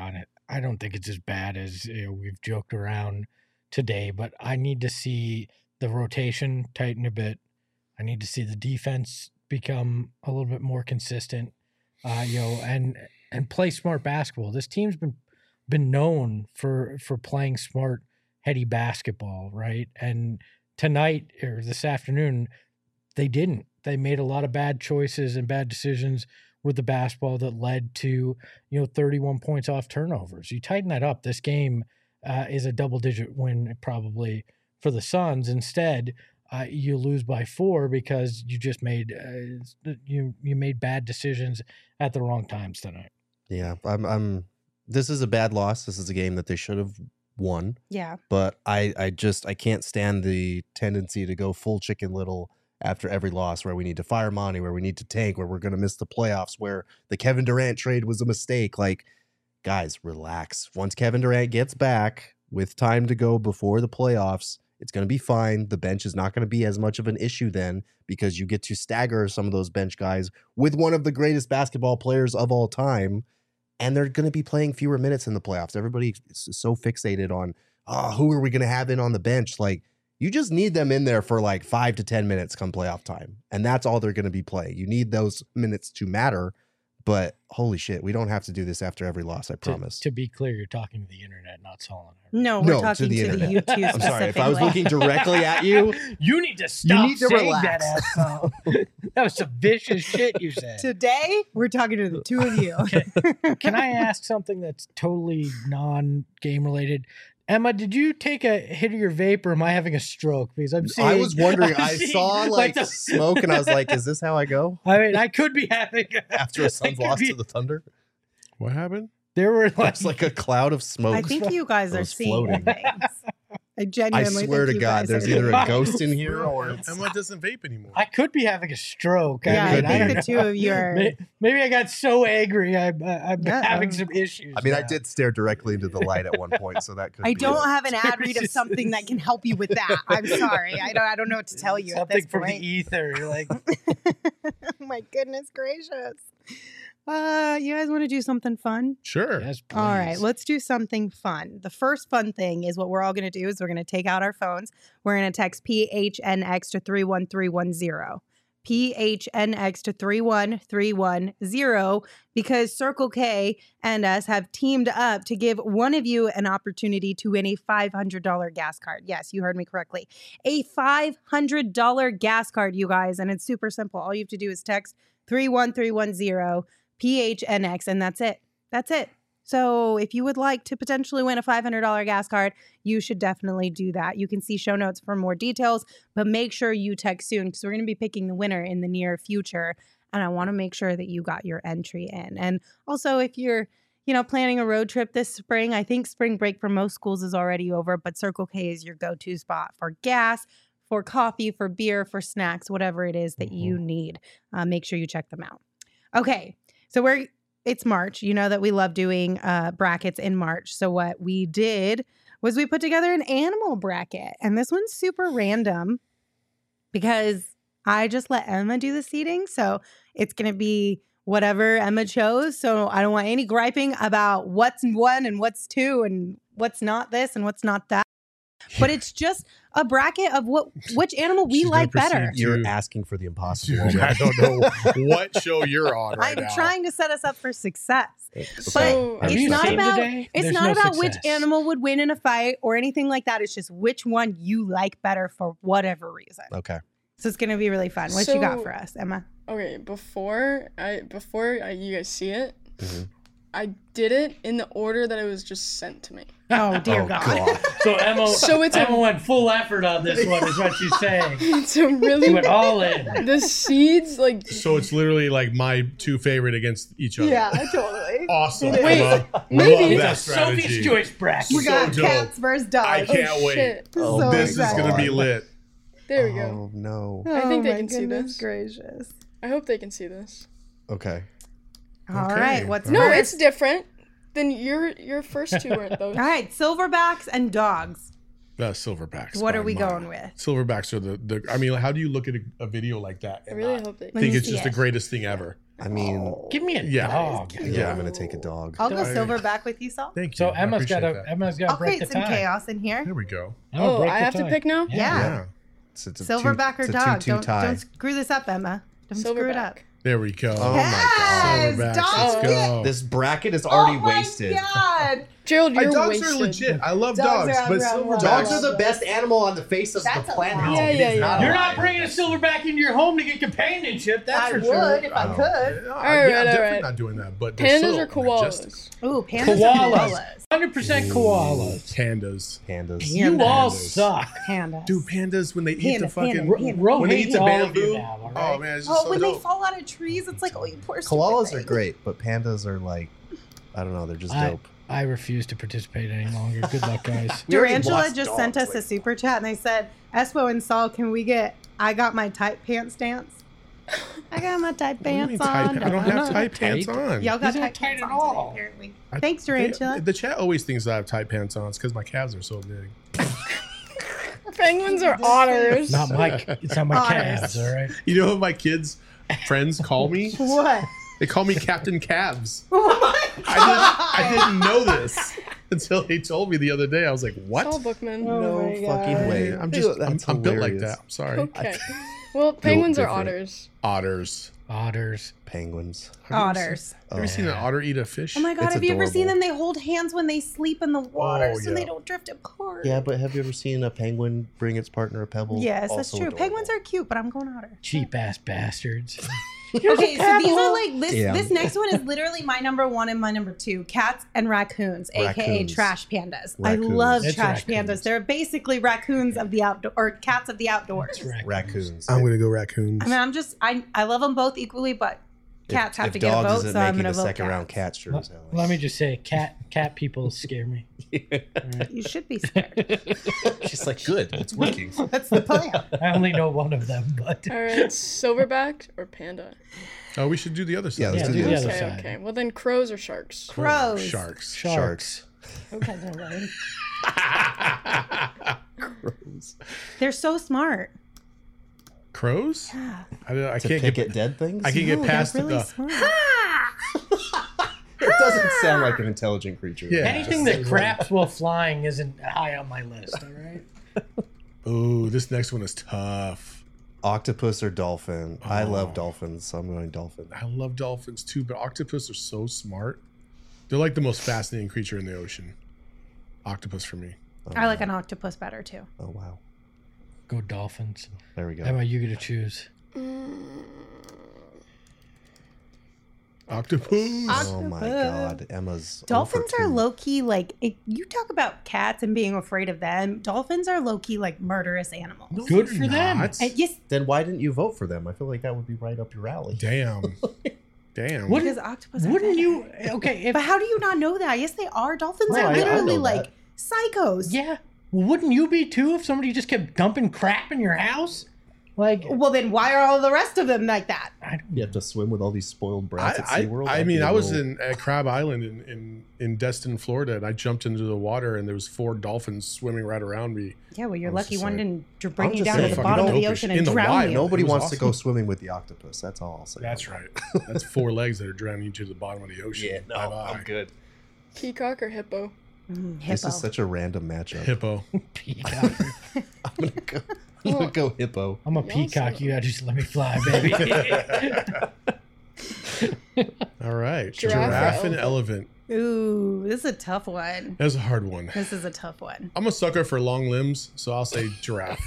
I don't think it's as bad as we've joked around today, but I need to see the rotation tighten a bit. I need to see the defense become a little bit more consistent, and play smart basketball. This team's been known for playing smart, heady basketball, right? And tonight or this afternoon, they didn't. They made a lot of bad choices and bad decisions with the basketball that led to 31 points off turnovers. You tighten that up, this game is a double-digit win probably for the Suns. Instead, you lose by 4 because you just made you made bad decisions at the wrong times tonight. Yeah, this is a bad loss. This is a game that they should have won. Yeah. But I can't stand the tendency to go full Chicken Little after every loss, where we need to fire Monty, where we need to tank, where we're going to miss the playoffs, where the Kevin Durant trade was a mistake. Like, guys, relax. Once Kevin Durant gets back with time to go before the playoffs, it's going to be fine. The bench is not going to be as much of an issue then, because you get to stagger some of those bench guys with one of the greatest basketball players of all time, and they're going to be playing fewer minutes in the playoffs. Everybody is so fixated on, who are we going to have in on the bench? Like, you just need them in there for like 5 to 10 minutes come playoff time. And that's all they're going to be playing. You need those minutes to matter. But holy shit, we don't have to do this after every loss, I promise. To be clear, you're talking to the internet, not Solon. No, we're talking to the YouTube. I'm sorry, if I was looking directly at you, you need to stop. You need to saying relax. That, that was some vicious shit you said. Today, we're talking to the two of you. Can I ask something that's totally non-game related? Emma, did you take a hit of your vape, or am I having a stroke? Because I was wondering. I saw smoke, and I was like, "Is this how I go?" I mean, I could be having after a Suns loss to the Thunder. What happened? There were It's like a cloud of smoke. I think you guys are was seeing floating. things. I I genuinely swear think to you God, guys there's are either seeing a ghost in here or Emma doesn't vape anymore. I could be having a stroke. Yeah, I could think be. the two of you are. Maybe I got so angry. I'm Yeah. having some issues. I mean, I now. did stare directly into the light at one point, so that could I be don't it. have an ad read of something that can help you with that. I'm sorry. I don't know what to tell you at Something this from the point. ether. You're like, My goodness gracious. You guys want to do something fun? Sure. yes, please. All right, let's do something fun. The first fun thing is what we're all going to do is we're going to take out our phones. We're going to text PHNX to 31310. PHNX to 31310 because Circle K and us have teamed up to give one of you an opportunity to win a $500 gas card. Yes, you heard me correctly. A $500 gas card, you guys, and it's super simple. All you have to do is text 31310 PHNX, and that's it. That's it. So if you would like to potentially win a $500 gas card, you should definitely do that. You can see show notes for more details, but make sure you text soon because we're going to be picking the winner in the near future. And I want to make sure that you got your entry in. And also, if you're, planning a road trip this spring, I think spring break for most schools is already over, but Circle K is your go-to spot for gas, for coffee, for beer, for snacks, whatever it is that you need. Make sure you check them out. Okay, so it's March. You know that we love doing brackets in March. So what we did was we put together an animal bracket. And this one's super random because I just let Emma do the seating. So it's going to be whatever Emma chose. So I don't want any griping about what's one and what's two and what's not this and what's not that. But it's just a bracket of which animal we She's like gonna better. proceed You're to- asking for the impossible. Dude, I don't know what show you're on right I'm now. trying to set us up for success. So Have it's you not seen about today? it's There's not no about which success. animal would win in a fight or anything like that. It's just which one you like better for whatever reason. Okay. So it's going to be really fun. What you got So- for us, Emma? okay, before you guys see it, Mhm. I did it in the order that it was just sent to me. Oh dear Oh, God. God. So Emma, So it's a- Emma went full effort on this one, is what she's saying. It's a She really went all in. the seeds like So it's literally like my two favorite against each other. totally. Awesome. Wait, Emma. maybe- Love that It's a Sophie's strategy. choice bracket. We got so dope. cats versus dogs. I can't wait. shit. So This is excited. going to be lit. There we go. Oh, no. I think they my can see goodness this. gracious. I hope they can see this. Okay. All Okay. right, what's No, first? it's different. Then your first two weren't those. All right, silverbacks and dogs. Silverbacks. What by are we mile. going with? Silverbacks are the. I mean, how do you look at a video like that? I and really not hope they. Let think me it's see just the it. greatest thing ever. I mean, Give me a Yeah. dog. yeah, I'm going to take a dog. I'll go I- silverback with you, Saul. Thank you. So I Emma's got appreciate that. to I'll break create the some tie. chaos in here. There we go. Emma, Oh, break I the have to tie. pick now. Yeah. Yeah. It's a Silverback or it's a dog? 2-2 Don't tie. screw this up, Emma. Don't screw it up. Silverback. There we go. Oh, my God. Yes, Silverbacks. dogs Let's get- go. This bracket is already oh my wasted. God. Gerald, you're dogs wasted. are legit. I love Dogs dogs, are but around one. silverbacks. Dogs are the best animal on the face of That's the a planet. lie. Yeah, It is yeah, yeah. You're a not lie. bringing a silverback into your home to get companionship. That's I for would sure. if I Oh. could. Yeah, All right, I'm all definitely right. not doing that. But they're Pandas so or majestic. koalas? Ooh, pandas or Koalas. koalas? 100% koalas. Pandas. Pandas. You all Pandas. suck. Pandas. Dude, pandas when they eat Panda, the fucking panda, panda. Ro when they hates eat the all of you bamboo. now, all right? Oh man, it's just Oh, so when dope. they fall out of trees, it's like, oh, you poor stupid Koalas are thing. great, but pandas are like, I don't know, they're just dope. I refuse to participate any longer. Good luck, guys. We already Durantula lost just dogs sent us a lately. super chat and they said, Espo and Saul, can we get I got my tight pants dance? I got my tight What do you mean pants tight on. pa- I don't have tight pants Tight? on. Y'all got These tight aren't tight pants at on today, all. apparently. I- Thanks, Durantula. The chat always thinks I have tight pants on. It's because my calves are so big. Penguins are otters. Not my, it's not my Otters. calves, all right? You know what my kids' friends call me? What? They call me Captain Calves. What? I didn't know this until they told me the other day. I was like, what? Saul Bookman. Oh No my fucking God. way. I'm just That's I'm built like hilarious. that. I'm sorry. Okay. Well, penguins are different. otters. Otters. Otters. Penguins. Otters. Have you ever seen an otter eat a fish? Oh my God, It's have you ever seen adorable. them? They hold hands when they sleep in the water so yeah. they don't drift apart. Yeah, but have you ever seen a penguin bring its partner a pebble? Yes, that's Also true. adorable. Penguins are cute, but I'm going otter. Cheap ass bastards. Okay, so these are like this. Yeah. This next one is literally my number one and my number two: cats and raccoons, aka Raccoons. trash pandas. I Raccoons. love It's trash raccoons. pandas. They're basically raccoons of the outdoor or cats of the outdoors. That's right. Raccoons. I'm gonna go raccoons. I mean, I love them both equally, but Cats have if to get a dogs vote, isn't so I'm making going a to vote second round cats. cat sure as hell. Let me just say, cat people scare me. You should be scared. She's like, good, it's working. That's the plan. I only know one of them, but All right, silverback or panda? Oh, we should do the other side. Yeah, let's Yeah, do do the the other other Okay, side. okay. Well, then crows or sharks? Crows. Sharks. Sharks. Okay, they're lame. Crows. They're so smart. Crows? Yeah. I To can't pick get at dead things? I can No, get past they're really the smart. It doesn't sound like an intelligent creature. Yeah. anything that craps while flying isn't high on my list. All right. Ooh, this next one is tough. Octopus or dolphin? I love Oh. dolphins, so I'm going dolphin. I love dolphins too, but octopus are so smart. They're like the most fascinating creature in the ocean. Octopus for me. Oh, I like wow. an octopus better too. Oh wow. Go Dolphins. There we go. Emma, you get to choose. Octopus. Oh my Octopus. god. Emma's Dolphins 0 for are 2. low key like you talk about cats and being afraid of them. Dolphins are low key like murderous animals. Good for them. Not. Yes, Then why didn't you vote for them? I feel like that would be right up your alley. Damn. Damn. What- because octopus. Are Wouldn't bad. you? Okay, if But how do you not know that? Yes, they are. Dolphins No, are I literally know like that. psychos. yeah, wouldn't you be too if somebody just kept dumping crap in your house? Like, Well, then why are all the rest of them like that? I don't. You have to swim with all these spoiled brats at SeaWorld. I That'd mean, be a I was little- at Crab Island in Destin, Florida, and I jumped into the water, and there was 4 dolphins swimming right around me. Yeah, well, you're I was lucky just one like- didn't I'm bring you just down to saying, the fucking bottom of the dopish. ocean In and the drown wild. you. Nobody It was wants to go awesome. swimming with the octopus. That's all I'll say. That's right. That's 4 legs that are drowning you to the bottom of the ocean. Yeah, no, Bye-bye. I'm good. Peacock or hippo? This Hippo. is such a random matchup. Hippo. Peacock. I'm gonna go hippo. I'm a Y'all peacock. suck. You gotta just let me fly, baby. All right. Giraffe or Giraffe and elephant. Ooh, this is a tough one. That's a hard one. This is a tough one. I'm a sucker for long limbs, so I'll say giraffe.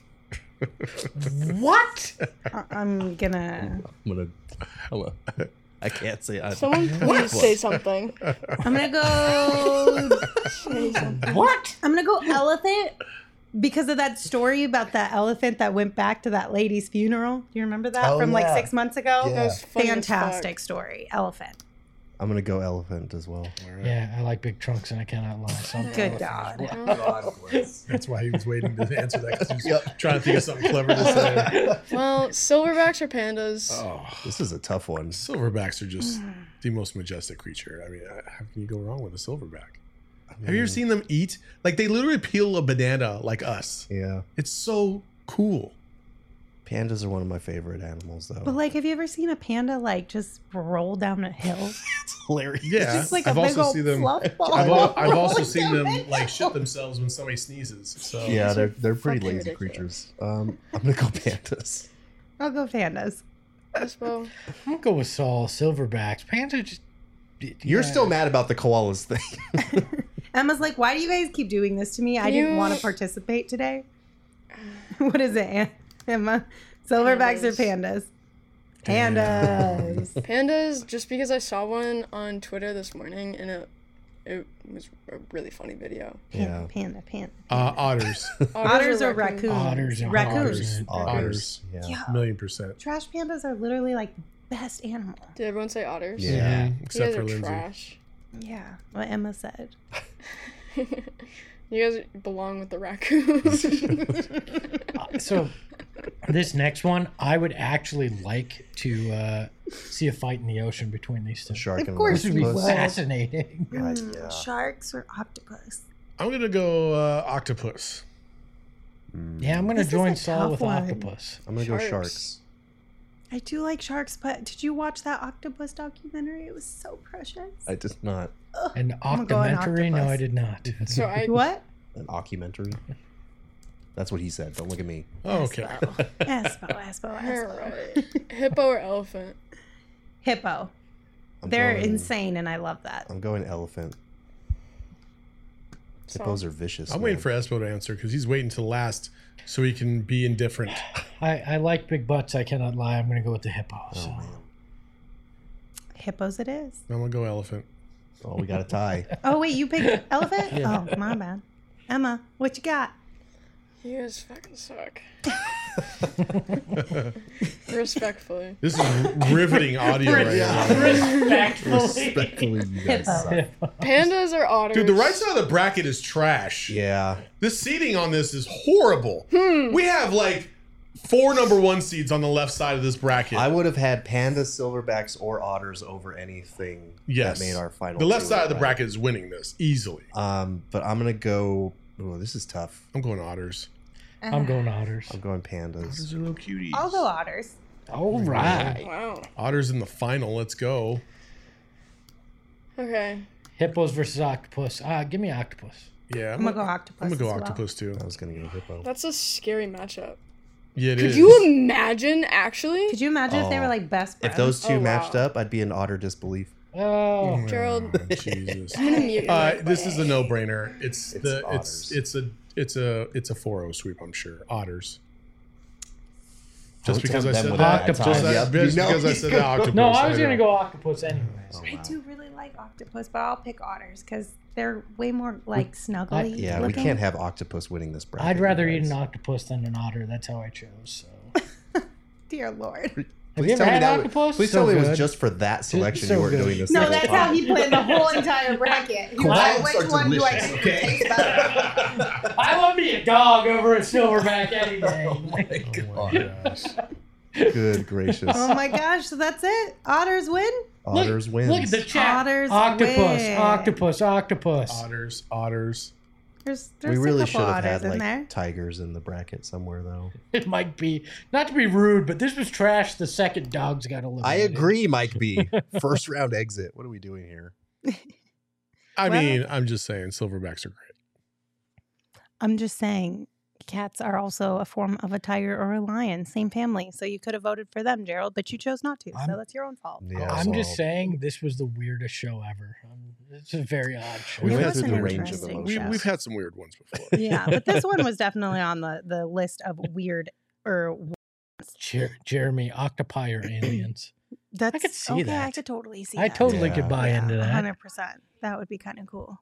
What? I'm gonna. I'm gonna. Hello. I can't say. Someone please say something. I'm gonna go. Say something. What? I'm gonna go elephant because of that story about that elephant that went back to that lady's funeral. Do you remember that Oh, from like yeah. 6 months ago? Yeah. That was funny as Fantastic story. Elephant. I'm gonna go elephant as well. Yeah, I like big trunks and I cannot lie. So I'm Good God. That's why he was waiting to answer that, because he was trying to think of something clever to say. fuck. Well, silverbacks or pandas? Oh, This is a tough one. silverbacks are just the most majestic creature. I mean, how can you go wrong with a silverback? Have you Mm. ever seen them eat? Like, they literally peel a banana like us. Yeah, It's so cool. pandas are one of my favorite animals, though. But like, have you ever seen a panda like just roll down a hill? it's hilarious. Yeah, Just like I've a big also old seen them. fluff ball. I've also rolling seen down them the like hill. shit themselves when somebody sneezes. So Yeah, they're pretty fucking lazy ridiculous. creatures. I'm gonna go pandas. I'll go pandas. Espo? I'm gonna go with Saul. Silverbacks. Panda just. You're yeah. still mad about the koalas thing. Emma's like, why do you guys keep doing this to me? I didn't You- want to participate today. What is it, Emma? Silverbacks or pandas? Pandas. Pandas, just because I saw one on Twitter this morning and it was a really funny video. Yeah. Panda. otters, Otters or raccoons? Otters and Raccoons. otters, Yeah. Yeah. 1,000,000%. Trash pandas are literally like the best animal. Did everyone say otters? Yeah. You Except guys for are Lindsay. trash. Yeah, what Emma said. You guys belong with the raccoons. So, this next one, I would actually like to see a fight in the ocean between these two. The shark Of and course This would be you would. fascinating. God, Mm, yeah. Sharks or octopus? I'm gonna go octopus. Yeah, I'm gonna This is join a Saul tough with one. octopus. I'm gonna go Sharks. sharks. I do like sharks, but did you watch that octopus documentary? It was so precious. I did not. An I'm going octomentary? No, octopus. I did not. so I What? An occumentary. That's what he said. Don't look at me. Oh, okay. Espo. Alright. Hippo or elephant? Hippo. I'm They're going- insane, and I love that. I'm going elephant. So, Hippos are vicious. I'm man. waiting for Espo to answer because he's waiting to last so he can be indifferent. I like big butts. I cannot lie. I'm gonna go with the hippo. Oh So. man. Hippos it is. I'm gonna go elephant. Oh, we got a tie. Oh, wait, you picked elephant? Yeah. Oh, my bad. Emma, what you got? you guys fucking suck. Respectfully. This is riveting audio right now. Respectfully, you guys suck. Pandas or otters? Dude, the right side of the bracket is trash. Yeah. The seating on this is horrible. We have like 4 number 1 seeds on the left side of this bracket. I would have had pandas, silverbacks, or otters over anything Yes. that made our final. The left two, side of the right? bracket is winning this easily. But I'm gonna go. Oh, this is tough. I'm going otters. I'm going otters. I'm going pandas. These are little cuties. I'll go otters. All right. Wow. Otters in the final. Let's go. Okay. Hippos versus octopus. Give me octopus. Yeah, I'm gonna go octopus. I'm gonna go as well. octopus too. I was gonna go hippo. That's a scary matchup. Yeah, it Could is. you imagine, actually? Could you imagine if they were Oh. like best friends? If those two Oh, wow. matched up, I'd be in otter disbelief. Oh, Gerald. Oh, Jesus. I'm gonna mute you. This is a no-brainer. It's otters. it's a 4-0 sweep. I'm sure otters. Just Don't because I tempt said them that. with that. Just, Yep. just You know because I he's said gonna- that. Octopus. no, I was going to know. go octopus anyways. Oh, I wow. do really like octopus, but I'll pick otters because they're way more like snuggly. Yeah, we looking. can't have octopus winning this bracket. I'd rather you eat an guys. octopus than an otter. That's how I chose. So. Dear Lord. Have you ever tell me had that octopus? Please So tell me it good. was just for that selection so you weren't good. doing this. No, second that's part. how he planned the whole entire bracket. He was like, Clouds which are one do I delicious, think okay? tastes better? I love me a dog over a silverback any day. Oh my gosh. Good gracious. Oh my gosh, so that's it? Otters win? Otters wins. Look at the chat. Otters octopus, win. octopus, octopus. Otters. There's we a really couple should have otters had in like there. tigers in the bracket somewhere though. It might be, not to be rude, but this was trash the second dogs got eliminated. I agree, Mike B. First round exit. What are we doing here? I Well- mean, I'm just saying, silverbacks are great. I'm just saying, cats are also a form of a tiger or a lion, same family. So you could have voted for them, Gerald, but you chose not to. So that's your own fault. Yeah, I'm just well, saying this was the weirdest show ever. It's a very odd show. We It went was through an the range of interesting emotions. We've had some weird ones before. Yeah, but this one was definitely on the list of weird or Jeremy, octopi or aliens? that's could see okay, that. I could totally see I that. totally Yeah. could buy into that. 100%. That would be kind of cool.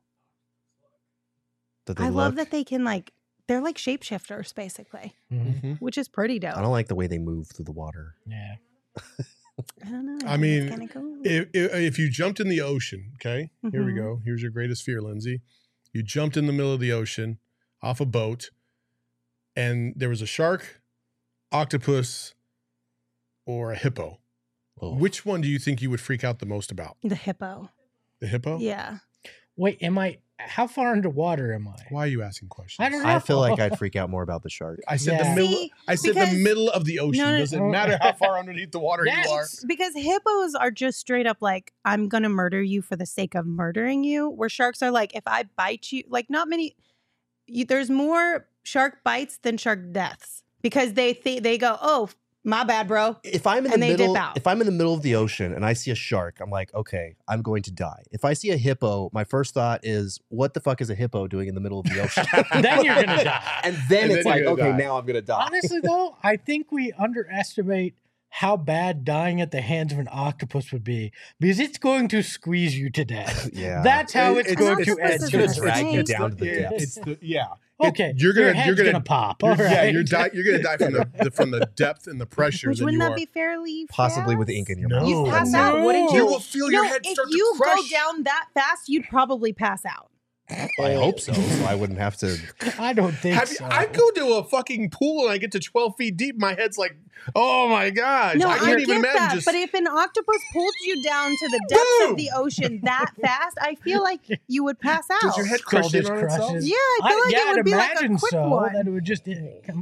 That they I love look- that they can they're like shapeshifters basically, Mhm. which is pretty dope. I don't like the way they move through the water. Yeah. I don't know. I mean, kind of cool. If you jumped in the ocean, okay, here we Mhm. go. Here's your greatest fear, Lindsay. You jumped in the middle of the ocean off a boat, and there was a shark, octopus, or a hippo. Oh. Which one do you think you would freak out the most about? The hippo. The hippo? Yeah. Wait, how far underwater am I? Why are you asking questions? I don't know. I feel like I'd freak out more about the shark. I said Yeah. the middle. See, I said because- the middle of the ocean. No, Doesn't matter how far underneath the water Yes. you are. Because hippos are just straight up like, I'm going to murder you for the sake of murdering you. Where sharks are like, if I bite you, like not many, there's more shark bites than shark deaths because they go, oh, my bad, bro. If I'm in the And they dip middle, out. if I'm in the middle of the ocean and I see a shark, I'm like, okay, I'm going to die. If I see a hippo, my first thought is, what the fuck is a hippo doing in the middle of the ocean? Then you're gonna die. And then And it's then like, you're okay, gonna die. now I'm gonna die. Honestly, though, I think we underestimate how bad dying at the hands of an octopus would be because it's going to squeeze you to death. Yeah. That's how it's It's going to octopus end. is gonna It's drag you it's down to the yeah, depths. it's the yeah. Okay, You're your gonna head's gonna pop. All Yeah, right. you're gonna die from the depth and the pressure Which that wouldn't you that are. be fairly Possibly with fast? ink in your No. mouth. You'd pass No. out, wouldn't you? You will feel your No, head if start to you crush. go down that fast, you'd probably pass out. I hope so. So I wouldn't have to. I don't think so. I go to a fucking pool and I get to 12 feet deep. My head's like, oh my gosh. No, I I, can't even get imagine that. just. But if an octopus pulled you down to the depths Boom! of the ocean that fast, I feel like you would pass out. Does your head Skull crush in just on itself? crushes. Yeah, I feel like yeah, it would I'd be like a imagine quick so. one. That it would just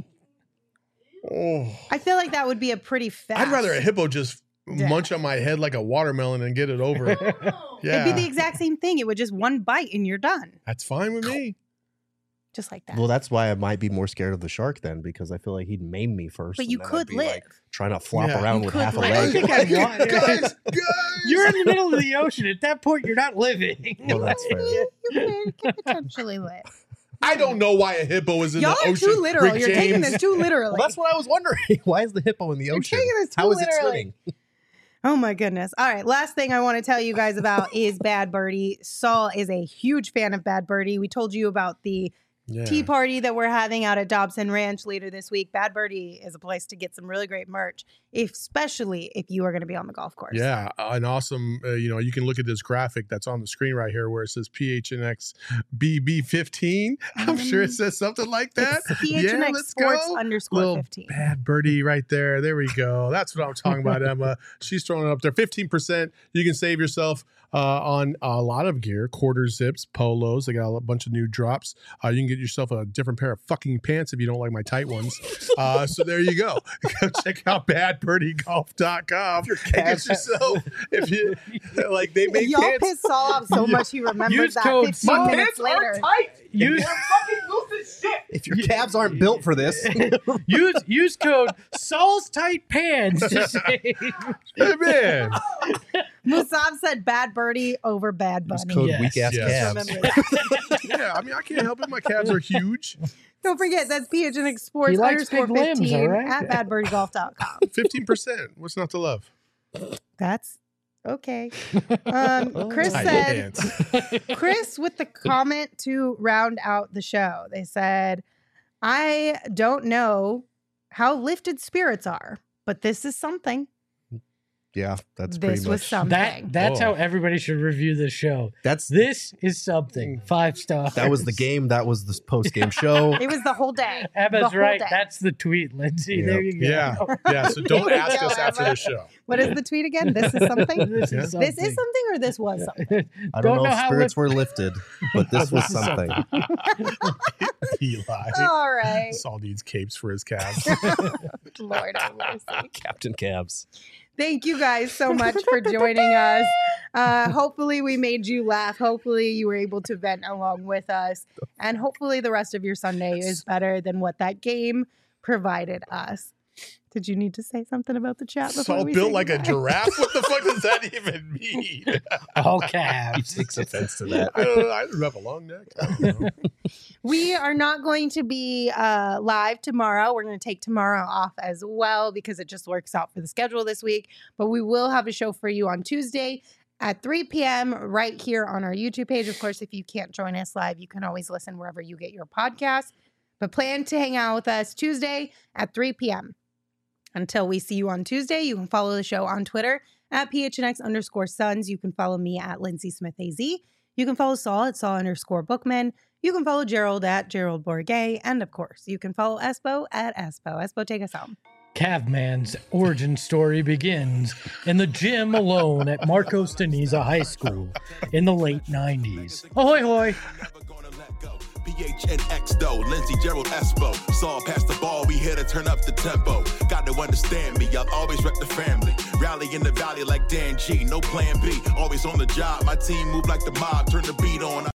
Oh. I feel like that would be a pretty fast. I'd rather a hippo just death. munch on my head like a watermelon and get it over. Yeah. It'd be the exact same thing. It would just one bite and you're done, That's fine with me. just like that. Well, that's why I might be more scared of the shark then, because I feel like he'd maim me first. But and you then I'd could be, live. like, trying to flop Yeah. around You with could half a live. I leg. think I'd want guys. You're in the middle of the ocean. At that point, you're not living. Well, that's fair. You could potentially live. I don't know why a hippo is in Y'all the are ocean. too literal. Rick You're taking James. this too literally. Well, that's what I was wondering. Why is the hippo in the ocean? taking this too How is it literally. swimming? Oh my goodness. All right. Last thing I want to tell you guys about is Bad Birdie. Saul is a huge fan of Bad Birdie. We told you about the tea party that we're having out at Dobson Ranch later this week. Bad Birdie is a place to get some really great merch, especially if you are going to be on the golf course. Yeah, an awesome, you can look at this graphic that's on the screen right here where it says PHNX BB15. I'm sure it says something like that. It's PHNX Sports _15. Bad Birdie right there. There we go. That's what I'm talking about, Emma. She's throwing it up there. 15%. You can save yourself on a lot of gear, quarter zips, polos. They got a bunch of new drops. You can get yourself a different pair of fucking pants if you don't like my tight ones. So there you go. Go check out badbirdiegolf.com. Get yourself, if you like, they make Y'all pants. pissed Saul off so much he remembered Use that code 15 minutes later. Use If your calves aren't built for this, use code Saul's Tight Pants to save. Hey, man. Musab said Bad Birdie over Bad it's Bunny. code Yes. weak ass Yes. calves. Remember that. Yeah, I mean, I can't help it. My calves are huge. Don't forget, that's PHNX Sports He likes big limbs, _15 all right? at badbirdiegolf.com. 15%. What's not to love? That's okay. Chris Tight said, pants. Chris with the comment to round out the show. They said, I don't know how lifted spirits are, but this is something. Yeah, that's pretty This was much. something. That's Oh. how everybody should review this show. That's This is something. 5 stars. that was the game. That was the post game show. It was the whole day. The Emma's whole right. day. That's the tweet, Lindsay. Yep. There you go. Yeah. Yeah. So don't There you ask go, us after Emma. the show. What is the tweet again? This is something? This Yeah. is something. This is something or this was something? I don't know if how spirits were lifted, but this was This is something. Eli. All right. Saul needs capes for his calves. Lord have mercy. Captain Calves. Thank you guys so much for joining us. Hopefully we made you laugh. Hopefully you were able to vent along with us. And hopefully the rest of your Sunday is better than what that game provided us. Did you need to say something about the chat before Saul we built say like a goodbye? giraffe? What the fuck does that even mean? All He calves. takes offense to that. I don't know. I have a long neck. I don't know. We are not going to be live tomorrow. We're going to take tomorrow off as well because it just works out for the schedule this week. But we will have a show for you on Tuesday at 3 p.m. right here on our YouTube page. Of course, if you can't join us live, you can always listen wherever you get your podcast. But plan to hang out with us Tuesday at 3 p.m. Until we see you on Tuesday, you can follow the show on Twitter at PHNX_Suns. You can follow me at Lindsay Smith AZ. You can follow Saul at Saul_Bookman. You can follow Gerald at Gerald Bourget. And of course, you can follow Espo at Espo. Espo, take us home. Calvman's origin story begins in the gym alone at Marcos Deniza High School in the late 90s. Ahoy, hoy. PHNX though, Lindsay, Gerald, Espo. Saw past the ball, we here to turn up the tempo. Got to understand me, I'll always rep the family. Rally in the valley like Dan G, no plan B. Always on the job, my team move like the mob, turn the beat on.